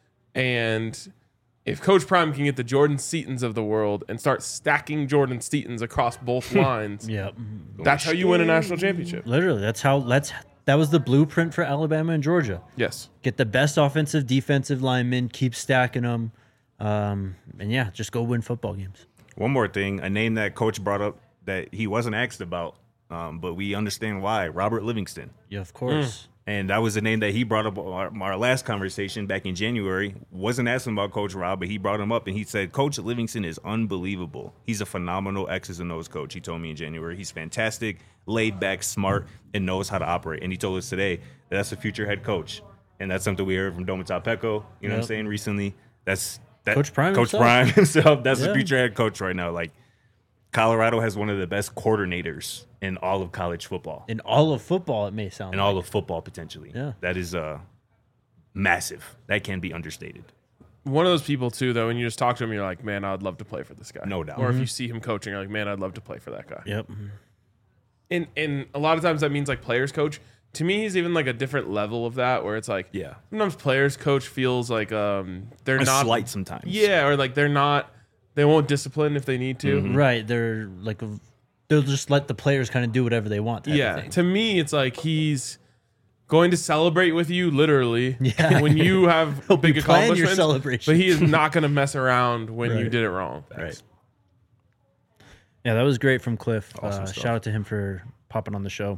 And if Coach Prime can get the Jordan Seatons of the world and start stacking Jordan Seatons across both lines, yep. that's how you win a national championship. Literally, that's how. That's that was the blueprint for Alabama and Georgia. Yes. Get the best offensive, defensive linemen, keep stacking them. Um, and yeah, just go win football games. One more thing, a name that Coach brought up that he wasn't asked about, um, but we understand why. Robert Livingston. Yeah, of course. Mm. And that was a name that he brought up our, our last conversation back in January. Wasn't asking about Coach Rob, but he brought him up and he said, Coach Livingston is unbelievable. He's a phenomenal X's and O's coach. He told me in January. He's fantastic, laid back, smart, and knows how to operate. And he told us today that that's a future head coach. And that's something we heard from Dominic Pecco, you know yep. what I'm saying, recently. That's That, Coach Prime Coach himself. Prime himself. That's yeah. the future head coach right now. Like, Colorado has one of the best coordinators in all of college football. In all of football, it may sound In like. all of football, potentially. Yeah. That is uh, massive. That can be understated. One of those people, too, though, when you just talk to him, you're like, man, I'd love to play for this guy. No doubt. Or Mm-hmm. if you see him coaching, you're like, man, I'd love to play for that guy. Yep. And, and a lot of times that means, like, players coach. To me, he's even like a different level of that, where it's like, yeah, sometimes players coach feels like um they're a not slight sometimes, yeah, or like they're not, they won't discipline if they need to, mm-hmm. right? They're like, a, they'll just let the players kind of do whatever they want. Type yeah, of thing. To me, it's like he's going to celebrate with you literally yeah. when you have He'll big be planning accomplishments, your celebration. but he is not going to mess around when right. you did it wrong. Right. Yeah, that was great from Cliff. Awesome uh, stuff. Shout out to him for popping on the show.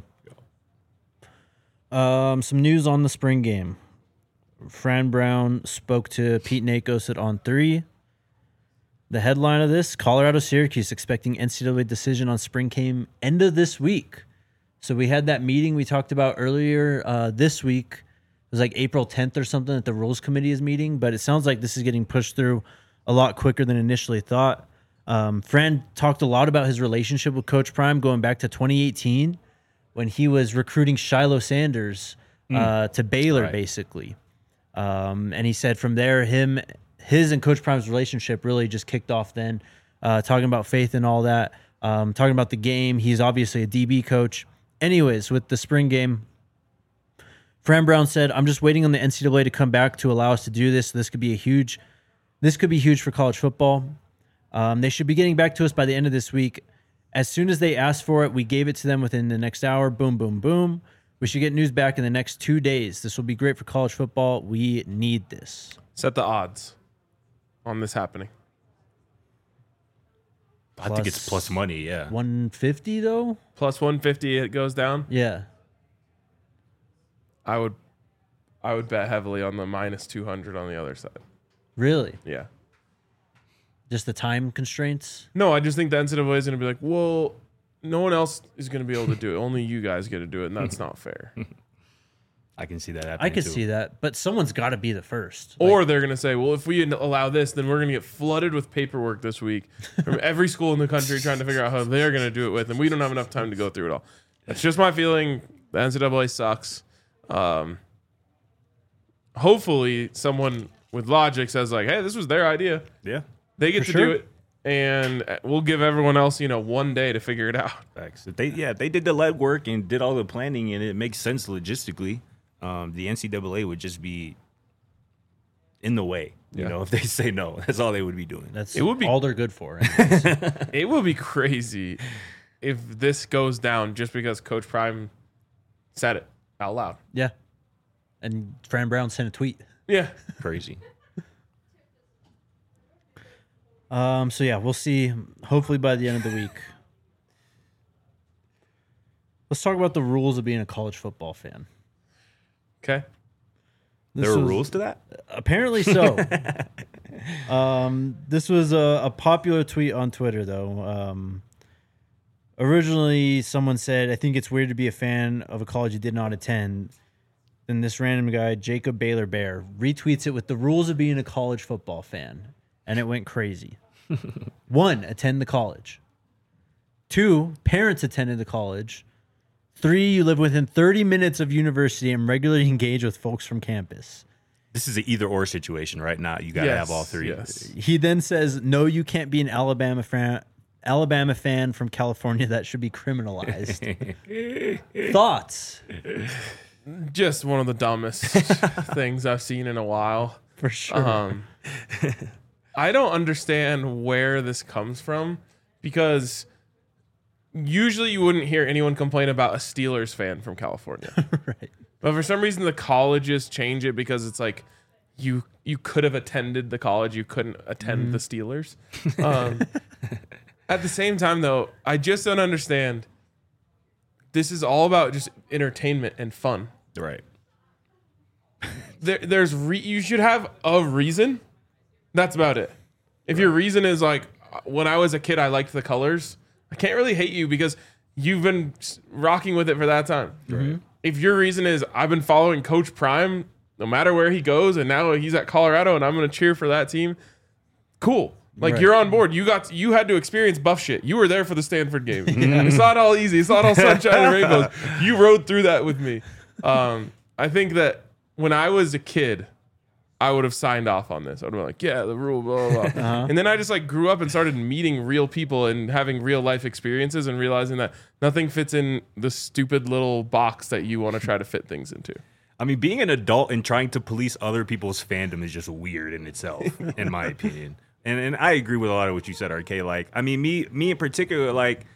Um, some news on the spring game. Fran Brown spoke to Pete Nakos at On three. The headline of this, Colorado Syracuse expecting N C double A decision on spring game end of this week. So we had that meeting we talked about earlier uh, this week. It was like April tenth or something that the Rules Committee is meeting, but it sounds like this is getting pushed through a lot quicker than initially thought. Um, Fran talked a lot about his relationship with Coach Prime going back to twenty eighteen. When he was recruiting Shiloh Sanders uh, mm. to Baylor, right. basically. Um, and he said from there, him, his and Coach Prime's relationship really just kicked off then, uh, talking about faith and all that, um, talking about the game. He's obviously a D B coach. Anyways, with the spring game, Fran Brown said, I'm just waiting on the N C double A to come back to allow us to do this. This could be a huge, this could be huge for college football. Um, they should be getting back to us by the end of this week. As soon as they asked for it, we gave it to them within the next hour. Boom, boom, boom. We should get news back in the next two days. This will be great for college football. We need this. Set the odds on this happening. I think it's plus money, yeah. one fifty though? Plus one fifty, it goes down. Yeah. I would, I would bet heavily on the minus two hundred on the other side. Really? Yeah. Just the time constraints? No, I just think the N C double A is going to be like, well, no one else is going to be able to do it. Only you guys get to do it, and that's not fair. I can see that happening. I could too. see that, but someone's got to be the first. Or Like, they're going to say, well, if we allow this, then we're going to get flooded with paperwork this week from every school in the country trying to figure out how they're going to do it with, and we don't have enough time to go through it all. That's just my feeling. The N C double A sucks. Um, hopefully, someone with logic says, like, hey, this was their idea. Yeah. They get For to sure. do it, and we'll give everyone else, you know, one day to figure it out. Facts. If they yeah, if they did the lead work and did all the planning and it makes sense logistically, um, the N C double A would just be in the way. You Yeah. know, if they say no, that's all they would be doing. that's It would be- all they're good for. anyways. It would be crazy if this goes down just because Coach Prime said it out loud. Yeah. And Fran Brown sent a tweet. Yeah. Crazy. Um, so yeah, we'll see. Hopefully by the end of the week. Let's talk about the rules of being a college football fan. Okay. This There are was- rules to that? Apparently so. um, this was a, a popular tweet on Twitter, though. Um, originally, someone said, I think it's weird to be a fan of a college you did not attend. Then this random guy, Jacob Baylor Bear, retweets it with the rules of being a college football fan. And it went crazy. One, attend the college. Two, parents attended the college. Three, you live within thirty minutes of university and regularly engage with folks from campus. This is an either or situation right now. You gotta Yes, have all three. yes. He then says, no, you can't be an Alabama fan, Alabama fan from California. That should be criminalized. Thoughts? Just one of the dumbest things I've seen in a while. For sure. Um, I don't understand where this comes from because usually you wouldn't hear anyone complain about a Steelers fan from California. Right. But for some reason, the colleges change it because it's like you you could have attended the college, you couldn't attend the Steelers. Um, at the same time, though, I just don't understand. This is all about just entertainment and fun. Right. There, there's re- you should have a reason. That's about it. If your reason is like, when I was a kid, I liked the colors, I can't really hate you because you've been s- rocking with it for that time. Right. If your reason is I've been following Coach Prime no matter where he goes, and now he's at Colorado, and I'm going to cheer for that team, cool. Like Right. you're on board. You got to, you had to experience buff shit. You were there for the Stanford game. It's not all easy. It's not all sunshine and rainbows. You rode through that with me. Um, I think that when I was a kid, I would have signed off on this. I would have been like, yeah, the rule, blah, blah, blah. Uh-huh. And then I just like grew up and started meeting real people and having real life experiences and realizing that nothing fits in the stupid little box that you want to try to fit things into. I mean, being an adult and trying to police other people's fandom is just weird in itself, in my opinion. And and I agree with a lot of what you said, R K. Like, I mean, me me in particular, like,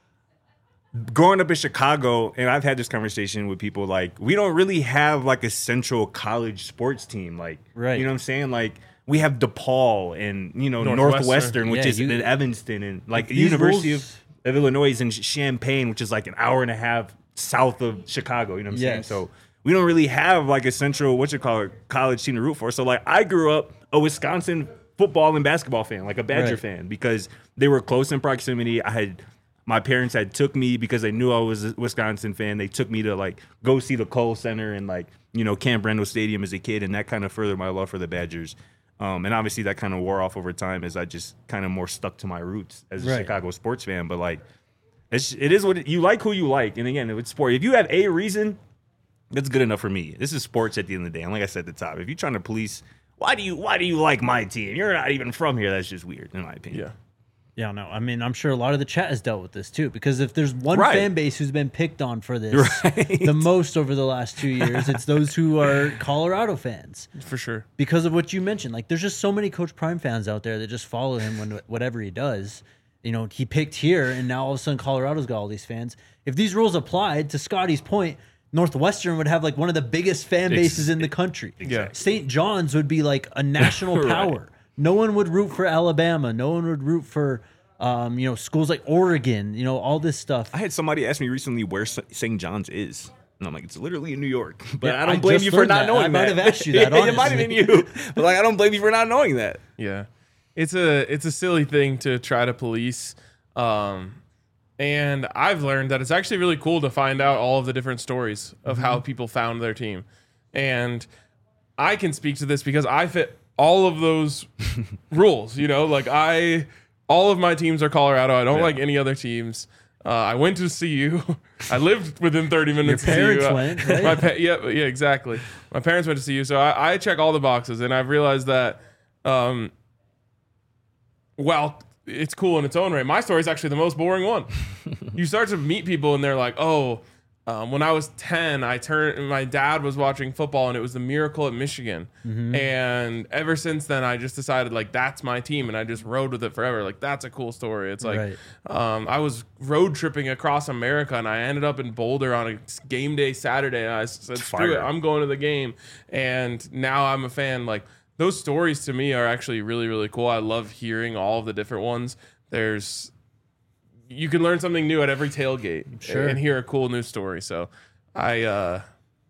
growing up in Chicago, and I've had this conversation with people, like, we don't really have, like, a central college sports team. Like, Right. you know what I'm saying? Like, we have DePaul and, you know, Northwestern. Northwestern, which Yeah, is you- in Evanston, and, like, the These University rules- of, of Illinois is in Champaign, which is, like, an hour and a half south of Chicago. You know what I'm saying? Yes. So we don't really have, like, a central, what you call it, college team to root for. So, like, I grew up a Wisconsin football and basketball fan, like a Badger Right. fan, because they were close in proximity. I had my parents had took me because they knew I was a Wisconsin fan. They took me to like go see the Kohl Center and like, you know, Camp Randall Stadium as a kid, and that kind of furthered my love for the Badgers. Um, and obviously that kind of wore off over time as I just kind of more stuck to my roots as a Right. Chicago sports fan. But like, it's it is what it, you like who you like, and again, it's sport. If you have a reason, that's good enough for me. This is sports at the end of the day. And like I said at the top, if you're trying to police, why do you why do you like my team? You're not even from here. That's just weird, in my opinion. Yeah. Yeah, no. I mean, I'm sure a lot of the chat has dealt with this too, because if there's one Right. fan base who's been picked on for this Right. the most over the last two years, it's those who are Colorado fans For sure. because of what you mentioned. Like, there's just so many Coach Prime fans out there that just follow him when whatever he does. you know, he picked here, and now all of a sudden Colorado's got all these fans. If these rules applied, to Scotty's point, Northwestern would have like one of the biggest fan bases in the country. Yeah. Saint John's would be like a national Right. power. No one would root for Alabama. No one would root for, um, you know, schools like Oregon. You know, all this stuff. I had somebody ask me recently where Saint John's is. And I'm like, it's literally in New York. But Yeah, I don't I blame just you for learned not that. knowing I might that. have asked you that, Yeah, it might have been honestly. you. But like, I don't blame you for not knowing that. Yeah, it's a it's a silly thing to try to police, um, and I've learned that it's actually really cool to find out all of the different stories of how people found their team, and I can speak to this because I fit all of those rules. You know, like I, all of my teams are Colorado. I don't Yeah. like any other teams. Uh, I went to C U. I lived within thirty minutes. Your parents of C U. went, right? My pa- yeah, yeah, exactly. My parents went to C U, so I, I check all the boxes, and I've realized that, um, well, it's cool in its own right. My story is actually the most boring one. You start to meet people, and they're like, "Oh, um, when I was ten, I turned. My dad was watching football, and it was the Miracle at Michigan. And ever since then, I just decided like that's my team, and I just rode with it forever. Like that's a cool story. It's like Right. um, I was road tripping across America, and I ended up in Boulder on a game day Saturday. And I said, "Screw it, Fire. I'm going to the game." And now I'm a fan. Like those stories to me are actually really, really cool. I love hearing all of the different ones. There's you can learn something new at every tailgate Sure. and hear a cool news story. So I, uh,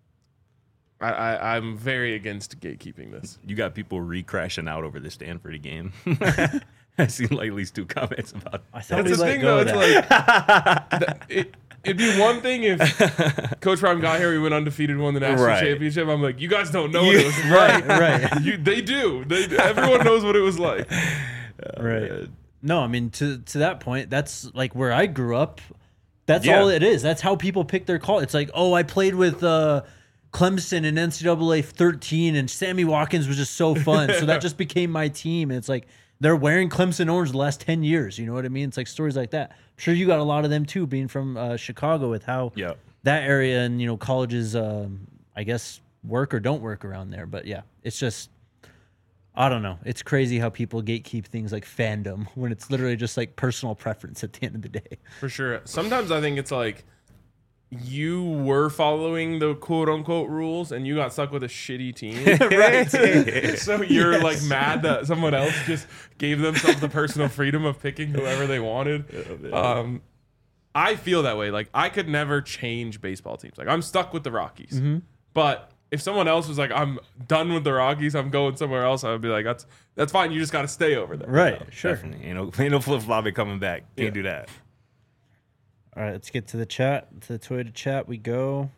I, I, I'm very against gatekeeping this. You got people re-crashing out over the Stanford game. I've seen like at least two comments about I thought That's we the let thing, go though. of It's that. like that- it, it'd be one thing if Coach Prime got here, we went undefeated, won the national Right. championship. I'm like, you guys don't know what it was right, like. right, You, they do. They, everyone knows what it was like. right. No, I mean to to that point, that's like where I grew up. That's Yeah. all it is. That's how people pick their call. It's like, oh, I played with uh, Clemson in N C double A thirteen, and Sammy Watkins was just so fun. So that just became my team. And it's like they're wearing Clemson orange the last ten years. You know what I mean? It's like stories like that. I'm sure you got a lot of them too, being from uh, Chicago, with how Yeah. that area and you know colleges, um, I guess, work or don't work around there. But yeah, it's just. I don't know. It's crazy how people gatekeep things like fandom when it's literally just like personal preference at the end of the day. For sure. Sometimes I think it's like you were following the quote unquote rules and you got stuck with a shitty team. Right. So you're like mad that someone else just gave themselves the personal freedom of picking whoever they wanted. Um, I feel that way. Like I could never change baseball teams. Like I'm stuck with the Rockies. But if someone else was like, I'm done with the Rockies, I'm going somewhere else, I would be like, that's that's fine. You just got to stay over there. Right. Sure. Definitely. Ain't no, ain't no flip flopping coming back. Can't Yeah. do that. All right. Let's get to the chat. To the Toyota chat we go.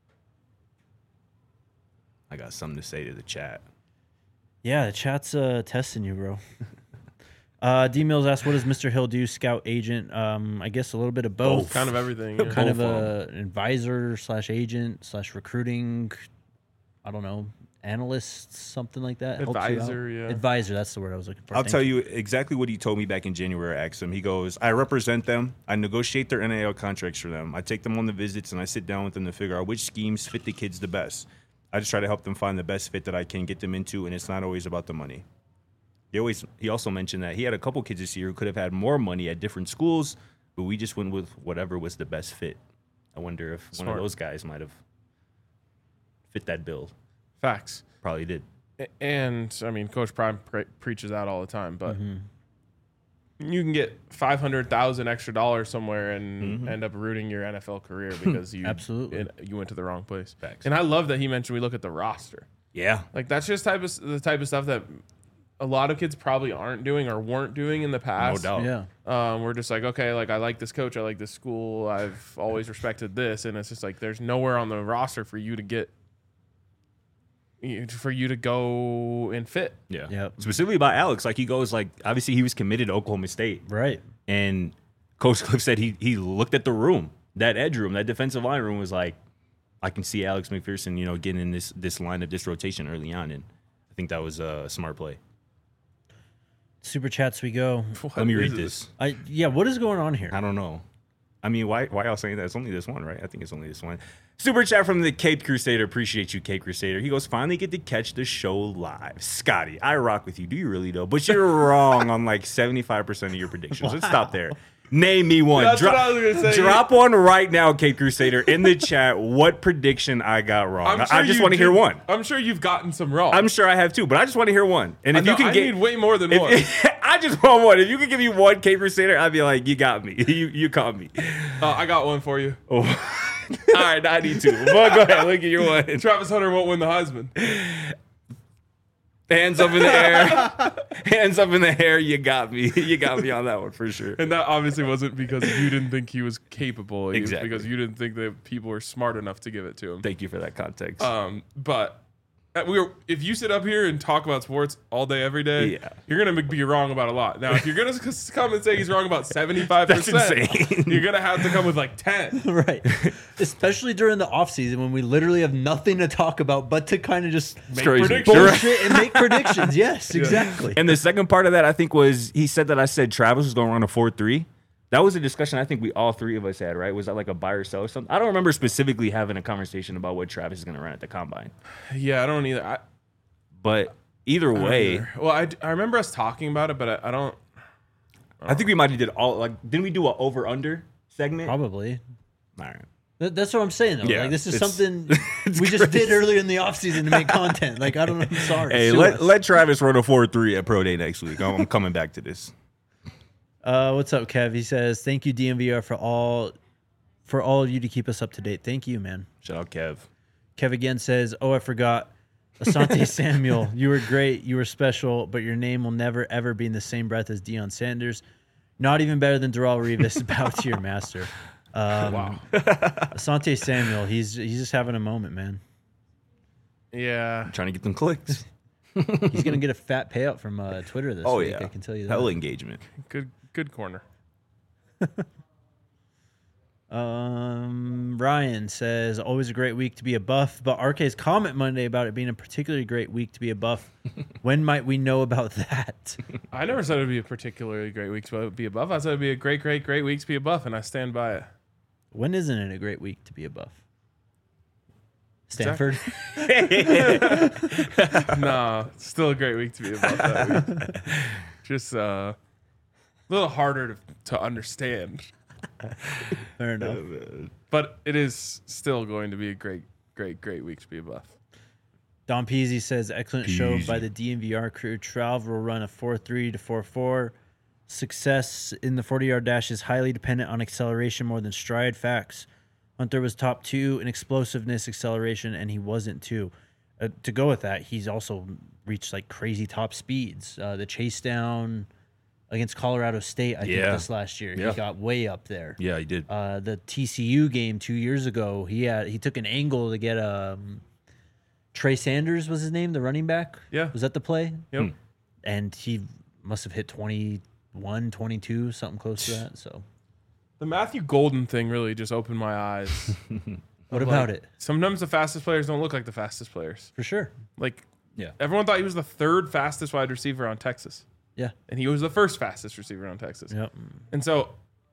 I got something to say to the chat. Yeah, the chat's uh, testing you, bro. uh, D Mills asked, what does Mister Hill do? Scout, agent? Um, I guess a little bit of both. Kind of everything. yeah. kind of both a an advisor slash agent slash recruiting. I don't know, analyst, something like that. Helps you out. Advisor, yeah. Advisor. That's the word I was looking for. I'll Thank tell you exactly what he told me back in January. I asked him. He goes, I represent them. I negotiate their N I L contracts for them. I take them on the visits and I sit down with them to figure out which schemes fit the kids the best. I just try to help them find the best fit that I can get them into, and it's not always about the money. He always. He also mentioned that he had a couple kids this year who could have had more money at different schools, but we just went with whatever was the best fit. I wonder if one Smart. of those guys might have fit that bill. Facts. Probably did. A- And I mean, Coach Prime pre- preaches that all the time, but Mm-hmm. you can get five hundred thousand extra dollars somewhere and Mhm. end up rooting your N F L career because you Absolutely. it- you went to the wrong place. Facts. And I love that he mentioned we look at the roster. Yeah. Like that's just type of the type of stuff that a lot of kids probably aren't doing or weren't doing in the No past. doubt. Yeah. Um, we're just like, okay, like I like this coach, I like this school, I've always respected this, and it's just like there's nowhere on the roster for you to get, for you to go and fit. Yeah. Yep. Specifically about Alex, like he goes like obviously he was committed to Oklahoma State, Right. and Coach Cliff said he he looked at the room, that edge room, that defensive line room was like, I can see Alex McPherson, you know, getting in this this lineup, this rotation early on, and I think that was a smart play. Super chats we go. What Let me is read this. I yeah. What is going on here? I don't know. I mean, why why y'all saying that? It's only this one, right? I think it's only this one. Super chat from the Cape Crusader. Appreciate you, Cape Crusader. He goes, finally get to catch the show live. Scotty, I rock with you. Do you really, though? But you're wrong on like seventy-five percent of your predictions. Wow. Let's stop there. Name me one. That's Drop, what I was gonna say. Drop one right now, Cape Crusader, in the chat. What prediction I got wrong? I'm sure I just you want to hear did- one. I'm sure you've gotten some wrong. I'm sure I have too, but I just want to hear one. And if I know, you can I get, need way more than if- one. I just want one. If you can give me one, Cape Crusader, I'd be like, you got me. You you caught me. Uh, I got one for you. Oh. All right, I need two. Well, go ahead. Look at your one. Travis Hunter won't win the Heisman. Hands up in the air. Hands up in the air. You got me. You got me on that one for sure. And that obviously wasn't because you didn't think he was capable. It was Exactly. because you didn't think that people were smart enough to give it to him. Thank you for that context. Um, but uh, we were, if you sit up here and talk about sports all day, every day, Yeah. you're going to be wrong about a lot. Now, if you're going to come and say he's wrong about seventy-five percent, That's insane. you're going to have to come with like ten. Right. Especially during the off season when we literally have nothing to talk about but to kind of just Make crazy. predictions. You're bullshit and make predictions. Yes, exactly. And the second part of that, I think, was he said that I said Travis was going to run a four three. That was a discussion I think we all three of us had, right? Was that like a buy or sell or something? I don't remember specifically having a conversation about what Travis is going to run at the combine. Yeah, I don't either. I, But either way, either. Well, I, I remember us talking about it, but I, I don't. I think we might have did all like didn't we do a over under segment? Probably. All right. Th- That's what I'm saying, though. Yeah, like, this is it's- something it's we just crazy. did earlier in the offseason to make content. Like, I don't know. I'm sorry. Hey, Sue let, us. let Travis run a four three at Pro Day next week. I'm, I'm coming back to this. Uh, what's up, Kev? He says, thank you, D M V R, for all for all of you to keep us up to date. Thank you, man. Shout out Kev. Kev again says, oh, I forgot. Asante Samuel, you were great. You were special, but your name will never, ever be in the same breath as Deion Sanders. Not even better than Darrell Revis. Bow to your master. Um, Wow. Asante Samuel, he's he's just having a moment, man. Yeah. I'm trying to get them clicks. He's going to get a fat payout from uh, Twitter this Oh, week, yeah. I can tell you that. Hell engagement. Good good corner. Um, Ryan says, always a great week to be a buff, but R K's comment Monday about it being a particularly great week to be a buff. When might we know about that? I never said it would be a particularly great week to be a buff. I said it would be a great, great, great week to be a buff, and I stand by it. When isn't it a great week to be a buff? Stanford? Nah, it's still a great week to be a buff that week. Just uh, a little harder to, to understand. Fair enough. But it is still going to be a great, great, great week to be a buff. Don Peasy says, excellent show Peasy. by the D M V R crew. Trav will run a four three to four four. Success in the forty-yard dash is highly dependent on acceleration more than stride. Facts. Hunter was top two in explosiveness acceleration, and he wasn't too. Uh, to go with that, he's also reached like crazy top speeds. Uh, the chase down against Colorado State, I Yeah. think this last year, Yeah. he got way up there. Yeah, he did. Uh, the T C U game two years ago, he had he took an angle to get um, Trey Sanders was his name, the running back. Yeah. Was that the play? Yep. And he must have hit twenty-one, twenty-two, something close to that. So The Matthew Golden thing really just opened my eyes. what Of, about like, it? Sometimes the fastest players don't look like the fastest players. For sure. Like, Yeah. everyone thought he was the third fastest wide receiver on Texas, Yeah. and he was the first fastest receiver on Texas. Yep. And so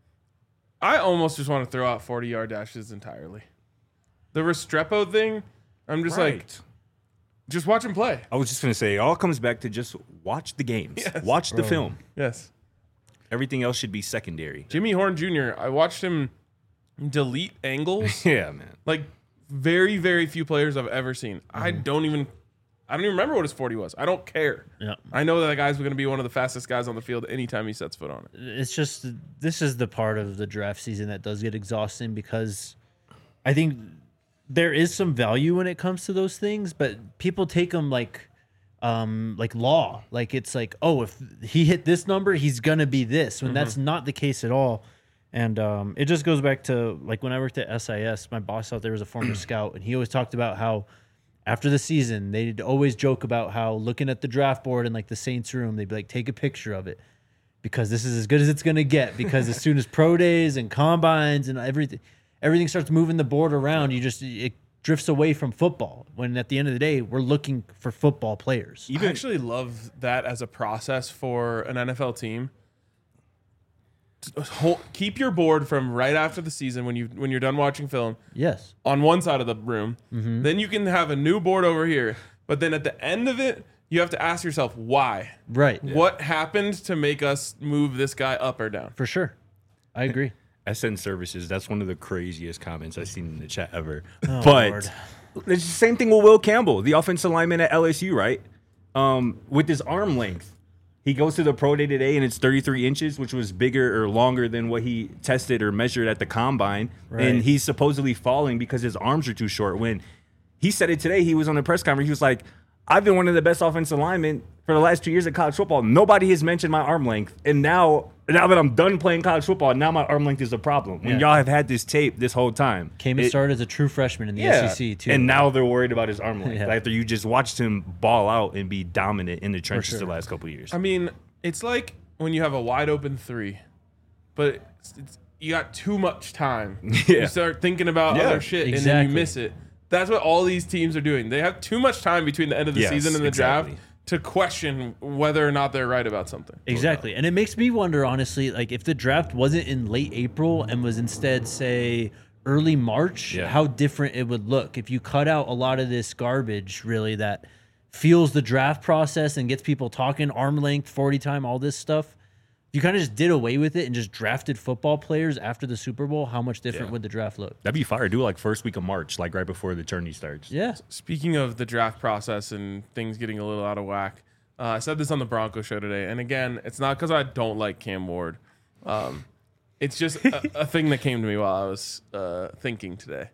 I almost just want to throw out forty-yard dashes entirely. The Restrepo thing, I'm just like, Right. just watch him play. I was just gonna say, it all comes back to just watch the games, Yes. watch the Bro. film. Yes. Everything else should be secondary. Jimmy Horn Junior, I watched him delete angles Yeah, man. like very, very few players I've ever seen. I don't even, I don't even remember what his forty was. I don't care. Yeah. I know that guy's going to be one of the fastest guys on the field anytime he sets foot on it. It's just this is the part of the draft season that does get exhausting because I think there is some value when it comes to those things, but people take them like um like law. Like it's like, oh, if he hit this number, he's gonna be this, when that's not the case at all. And um it just goes back to like when I worked at S I S, my boss out there was a former scout, and he always talked about how after the season, they'd always joke about how looking at the draft board in like the Saints room, they'd be like, take a picture of it because this is as good as it's going to get. Because as soon as pro days and combines and everything, everything starts moving the board around, you just, it drifts away from football. When at the end of the day, we're looking for football players. I actually love that as a process for an N F L team. hold, keep your board from right after the season when you when you're done watching film Yes. on one side of the room. Mm-hmm. Then you can have a new board over here. But then at the end of it, you have to ask yourself why. Right. What happened to make us move this guy up or down? For sure. I agree. S N Services, that's one of the craziest comments I've seen in the chat ever. Oh, but Lord. it's the same thing with Will Campbell, the offensive lineman at L S U, right? Um, with his arm length. He goes to the pro day today, and it's thirty-three inches, which was bigger or longer than what he tested or measured at the combine. Right. And he's supposedly falling because his arms are too short. When he said it today, he was on the press conference. He was like, I've been one of the best offensive linemen for the last two years of college football. Nobody has mentioned my arm length. And now, now that I'm done playing college football, now my arm length is a problem. When Yeah. y'all have had this tape this whole time. Came and It- started as a true freshman in the yeah. S E C, too. And now they're worried about his arm length. Yeah. After you just watched him ball out and be dominant in the trenches sure. the last couple of years. I mean, it's like when you have a wide open three, but it's, it's, you got too much time. Yeah. You start thinking about Yeah, other shit and then exactly. you miss it. That's what all these teams are doing. They have too much time between the end of the Yes, season and the exactly. draft to question whether or not they're right about something. Exactly. And it makes me wonder, honestly, like if the draft wasn't in late April and was instead, say, early March, Yeah. how different it would look if you cut out a lot of this garbage, really, that fuels the draft process and gets people talking arm length, forty time, all this stuff. If you kind of just did away with it and just drafted football players after the Super Bowl, how much different Yeah. would the draft look? That'd be fire. Do it like first week of March, like right before the tourney starts. Yeah. Speaking of the draft process and things getting a little out of whack, uh, I said this on the Bronco show today. And again, it's not because I don't like Cam Ward. Um, it's just a, a thing that came to me while I was uh, thinking today.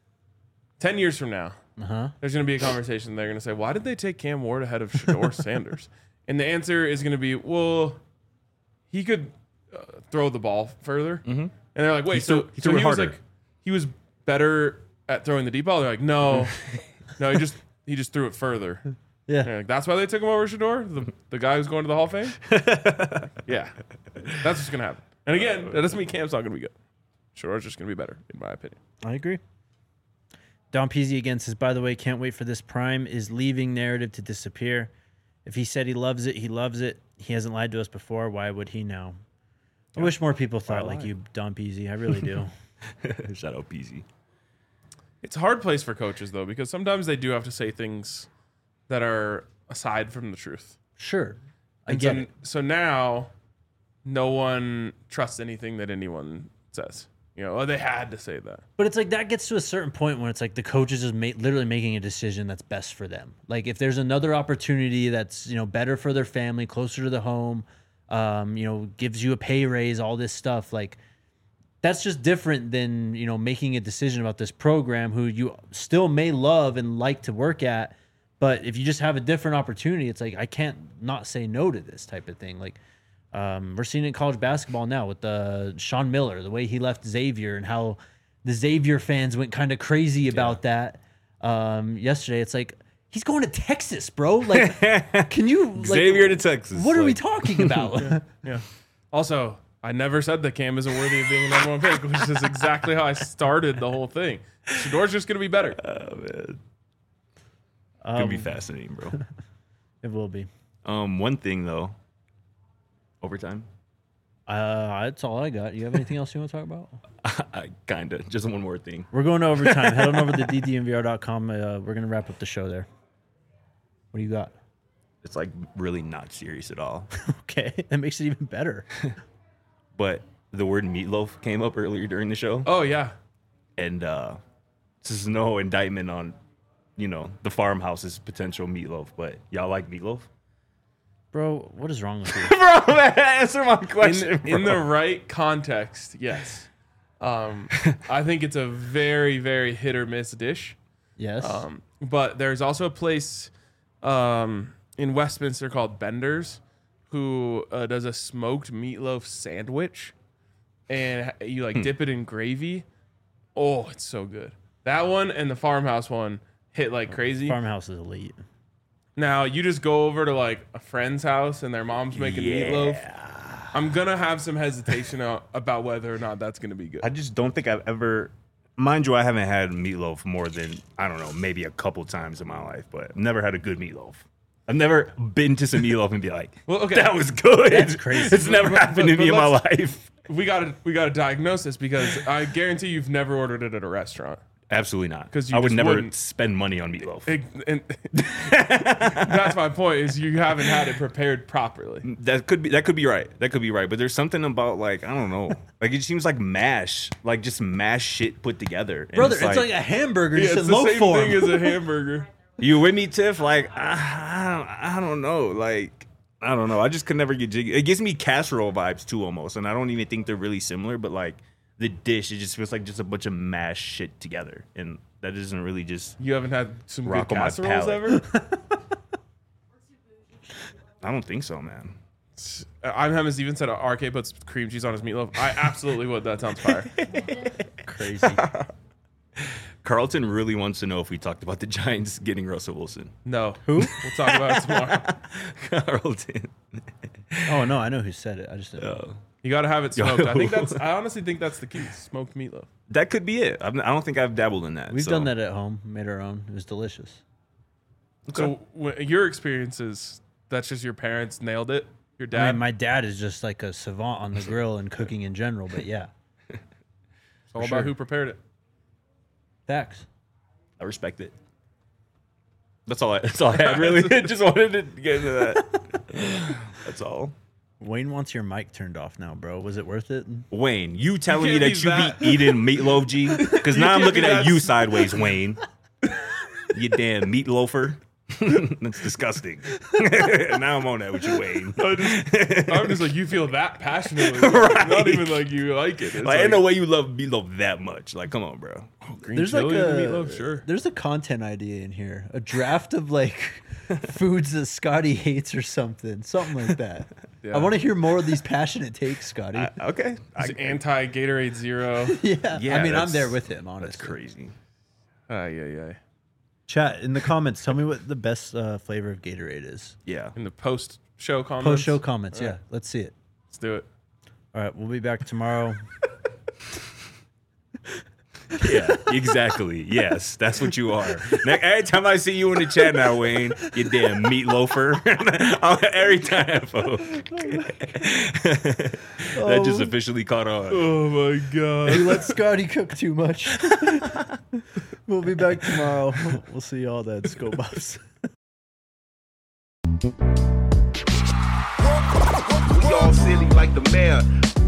Ten years from now, Uh-huh. there's going to be a conversation. They're going to say, why did they take Cam Ward ahead of Shador Sanders? And the answer is going to be, well, he could uh, throw the ball further. Mm-hmm. And they're like, wait, He so, threw- he so threw it he was harder. like, he was better at throwing the deep ball? They're like, no, no, he just he just threw it further. Yeah. They're like, that's why they took him over Shador, the, the guy who's going to the Hall of Fame? Yeah. That's what's going to happen. And again, that doesn't mean Cam's not going to be good. Shador's just going to be better, in my opinion. I agree. Don Peasy again says, by the way, can't wait for this prime is leaving narrative to disappear. If he said he loves it, he loves it. He hasn't lied to us before. Why would he now? I wish more people thought like lie? you, Don Peasy. I really do. Shout out Peasy. It's a hard place for coaches, though, because sometimes they do have to say things that are aside from the truth. Sure. I And get so, it. so now, no one trusts anything that anyone says. You know, oh, they had to say that. But it's like that gets to a certain point when it's like the coach is just ma- literally making a decision that's best for them. Like if there's another opportunity that's, you know, better for their family, closer to the home, um, you know, gives you a pay raise, all this stuff, like that's just different than, you know, making a decision about this program who you still may love and like to work at. But if you just have a different opportunity, it's like I can't not say no to this type of thing. Like Um, we're seeing it in college basketball now with the Sean Miller, the way he left Xavier and how the Xavier fans went kind of crazy about that um, yesterday. It's like he's going to Texas, bro. Like, can you like, Xavier to Texas. What are we like- talking about? Yeah. Also, I never said that Cam isn't worthy of being a number one pick, which is exactly how I started the whole thing. Shador's just going to be better. Oh man, Um, gonna be fascinating, bro. It will be. Um, one thing though, overtime. Uh, that's all I got. You have anything else you want to talk about? I kinda just one more thing. We're going to overtime. Head on over to d d n v r dot com. Uh, we're gonna wrap up the show there. What do you got? It's like really not serious at all. Okay, that makes it even better. But the word meatloaf came up earlier during the show, Oh, yeah. and uh, this is no indictment on, you know, the farmhouse's potential meatloaf. But y'all like meatloaf? Bro, what is wrong with you? Bro, man, answer my question. In, in the right context, yes. Um, I think it's a very, very hit or miss dish. Yes. Um, but there's also a place um, in Westminster called Bender's who uh, does a smoked meatloaf sandwich, and you like dip it in gravy. Oh, it's so good. That one and the farmhouse one hit like crazy. Farmhouse is elite. Now you just go over to like a friend's house and their mom's making meatloaf. I'm gonna have some hesitation a- about whether or not that's gonna be good. I just don't think I've ever, mind you, I haven't had meatloaf more than, I don't know, maybe a couple times in my life, but I've never had a good meatloaf. I've never been to some meatloaf and be like, Well, okay. that was good. That's crazy. It's never But- happened but- to me but in my let's- life. We gotta we gotta diagnose this because I guarantee you've never ordered it at a restaurant. Absolutely not. 'Cause you I would just never wouldn't. spend money on meatloaf. It- and that's my point. Is you haven't had it prepared properly. That could be that could be right. That could be right. But there's something about like I don't know. Like it seems like mash, like just mash shit put together. And Brother, it's like, a hamburger Yeah, just it's in the loaf same form. thing as a hamburger. you with me, Tiff? Like I, I, don't, I don't know. Like I don't know. I just could never get jiggy. It gives me casserole vibes too, almost. And I don't even think they're really similar. But like the dish, it just feels like just a bunch of mashed shit together, and that isn't really just. You haven't had some Rock good on my casseroles palate. ever? I don't think so, man. I'm Hemis even said R K puts cream cheese on his meatloaf. I absolutely would. That sounds fire. Crazy. Carlton really wants to know if we talked about the Giants getting Russell Wilson. No. Who? We'll talk about it tomorrow. Carlton. Oh no, I know who said it. I just didn't. Oh. You got to have it smoked. I think that's. I honestly think that's the key. Smoked meatloaf. That could be it. I've, I don't think I've dabbled in that. We've so. done that at home. Made our own. It was delicious. So wh- your experiences, that's just your parents nailed it. Your I dad. mean, my dad is just like a savant on the grill and cooking in general. But yeah, it's all sure. about who prepared it. facts. I respect it. That's all. I, that's all I had. Really, just wanted to get into that. That's all. Wayne wants your mic turned off now, bro. Was it worth it? Wayne, you telling You me can't that be you that- be eating meatloaf, G? Because now I'm can't looking be at that- you sideways, Wayne. You damn meatloafer. That's disgusting. Now I'm on that with you, Wayne. I just, I'm just like, you feel that passionately. Right. Not even like you like it. It's Like, ain't no way you love meatloaf that much. Like, come on, bro. green There's like chili a and the meatloaf, sure. There's a content idea in here. A draft of like foods that Scotty hates or something. Something like that. Yeah. I want to hear more of these passionate takes, Scotty. I, okay. I, It's anti Gatorade Zero. yeah. yeah, I mean, I'm that's- there with him, honestly. That's crazy. Ay, ay, ay. Chat in the comments. Tell me what the best uh, flavor of Gatorade is. Yeah. In the post show comments. Post show comments. Yeah. Let's see it. Let's do it. All right. We'll be back tomorrow. Yeah, exactly. Yes, that's what you are. Now, every time I see you in the chat now, Wayne, you damn meatloafer. Every time, folks. That just officially caught on. Oh my god. You let Scotty cook too much. We'll be back tomorrow. We'll see y'all then, Scope Ups. We all silly like the mayor.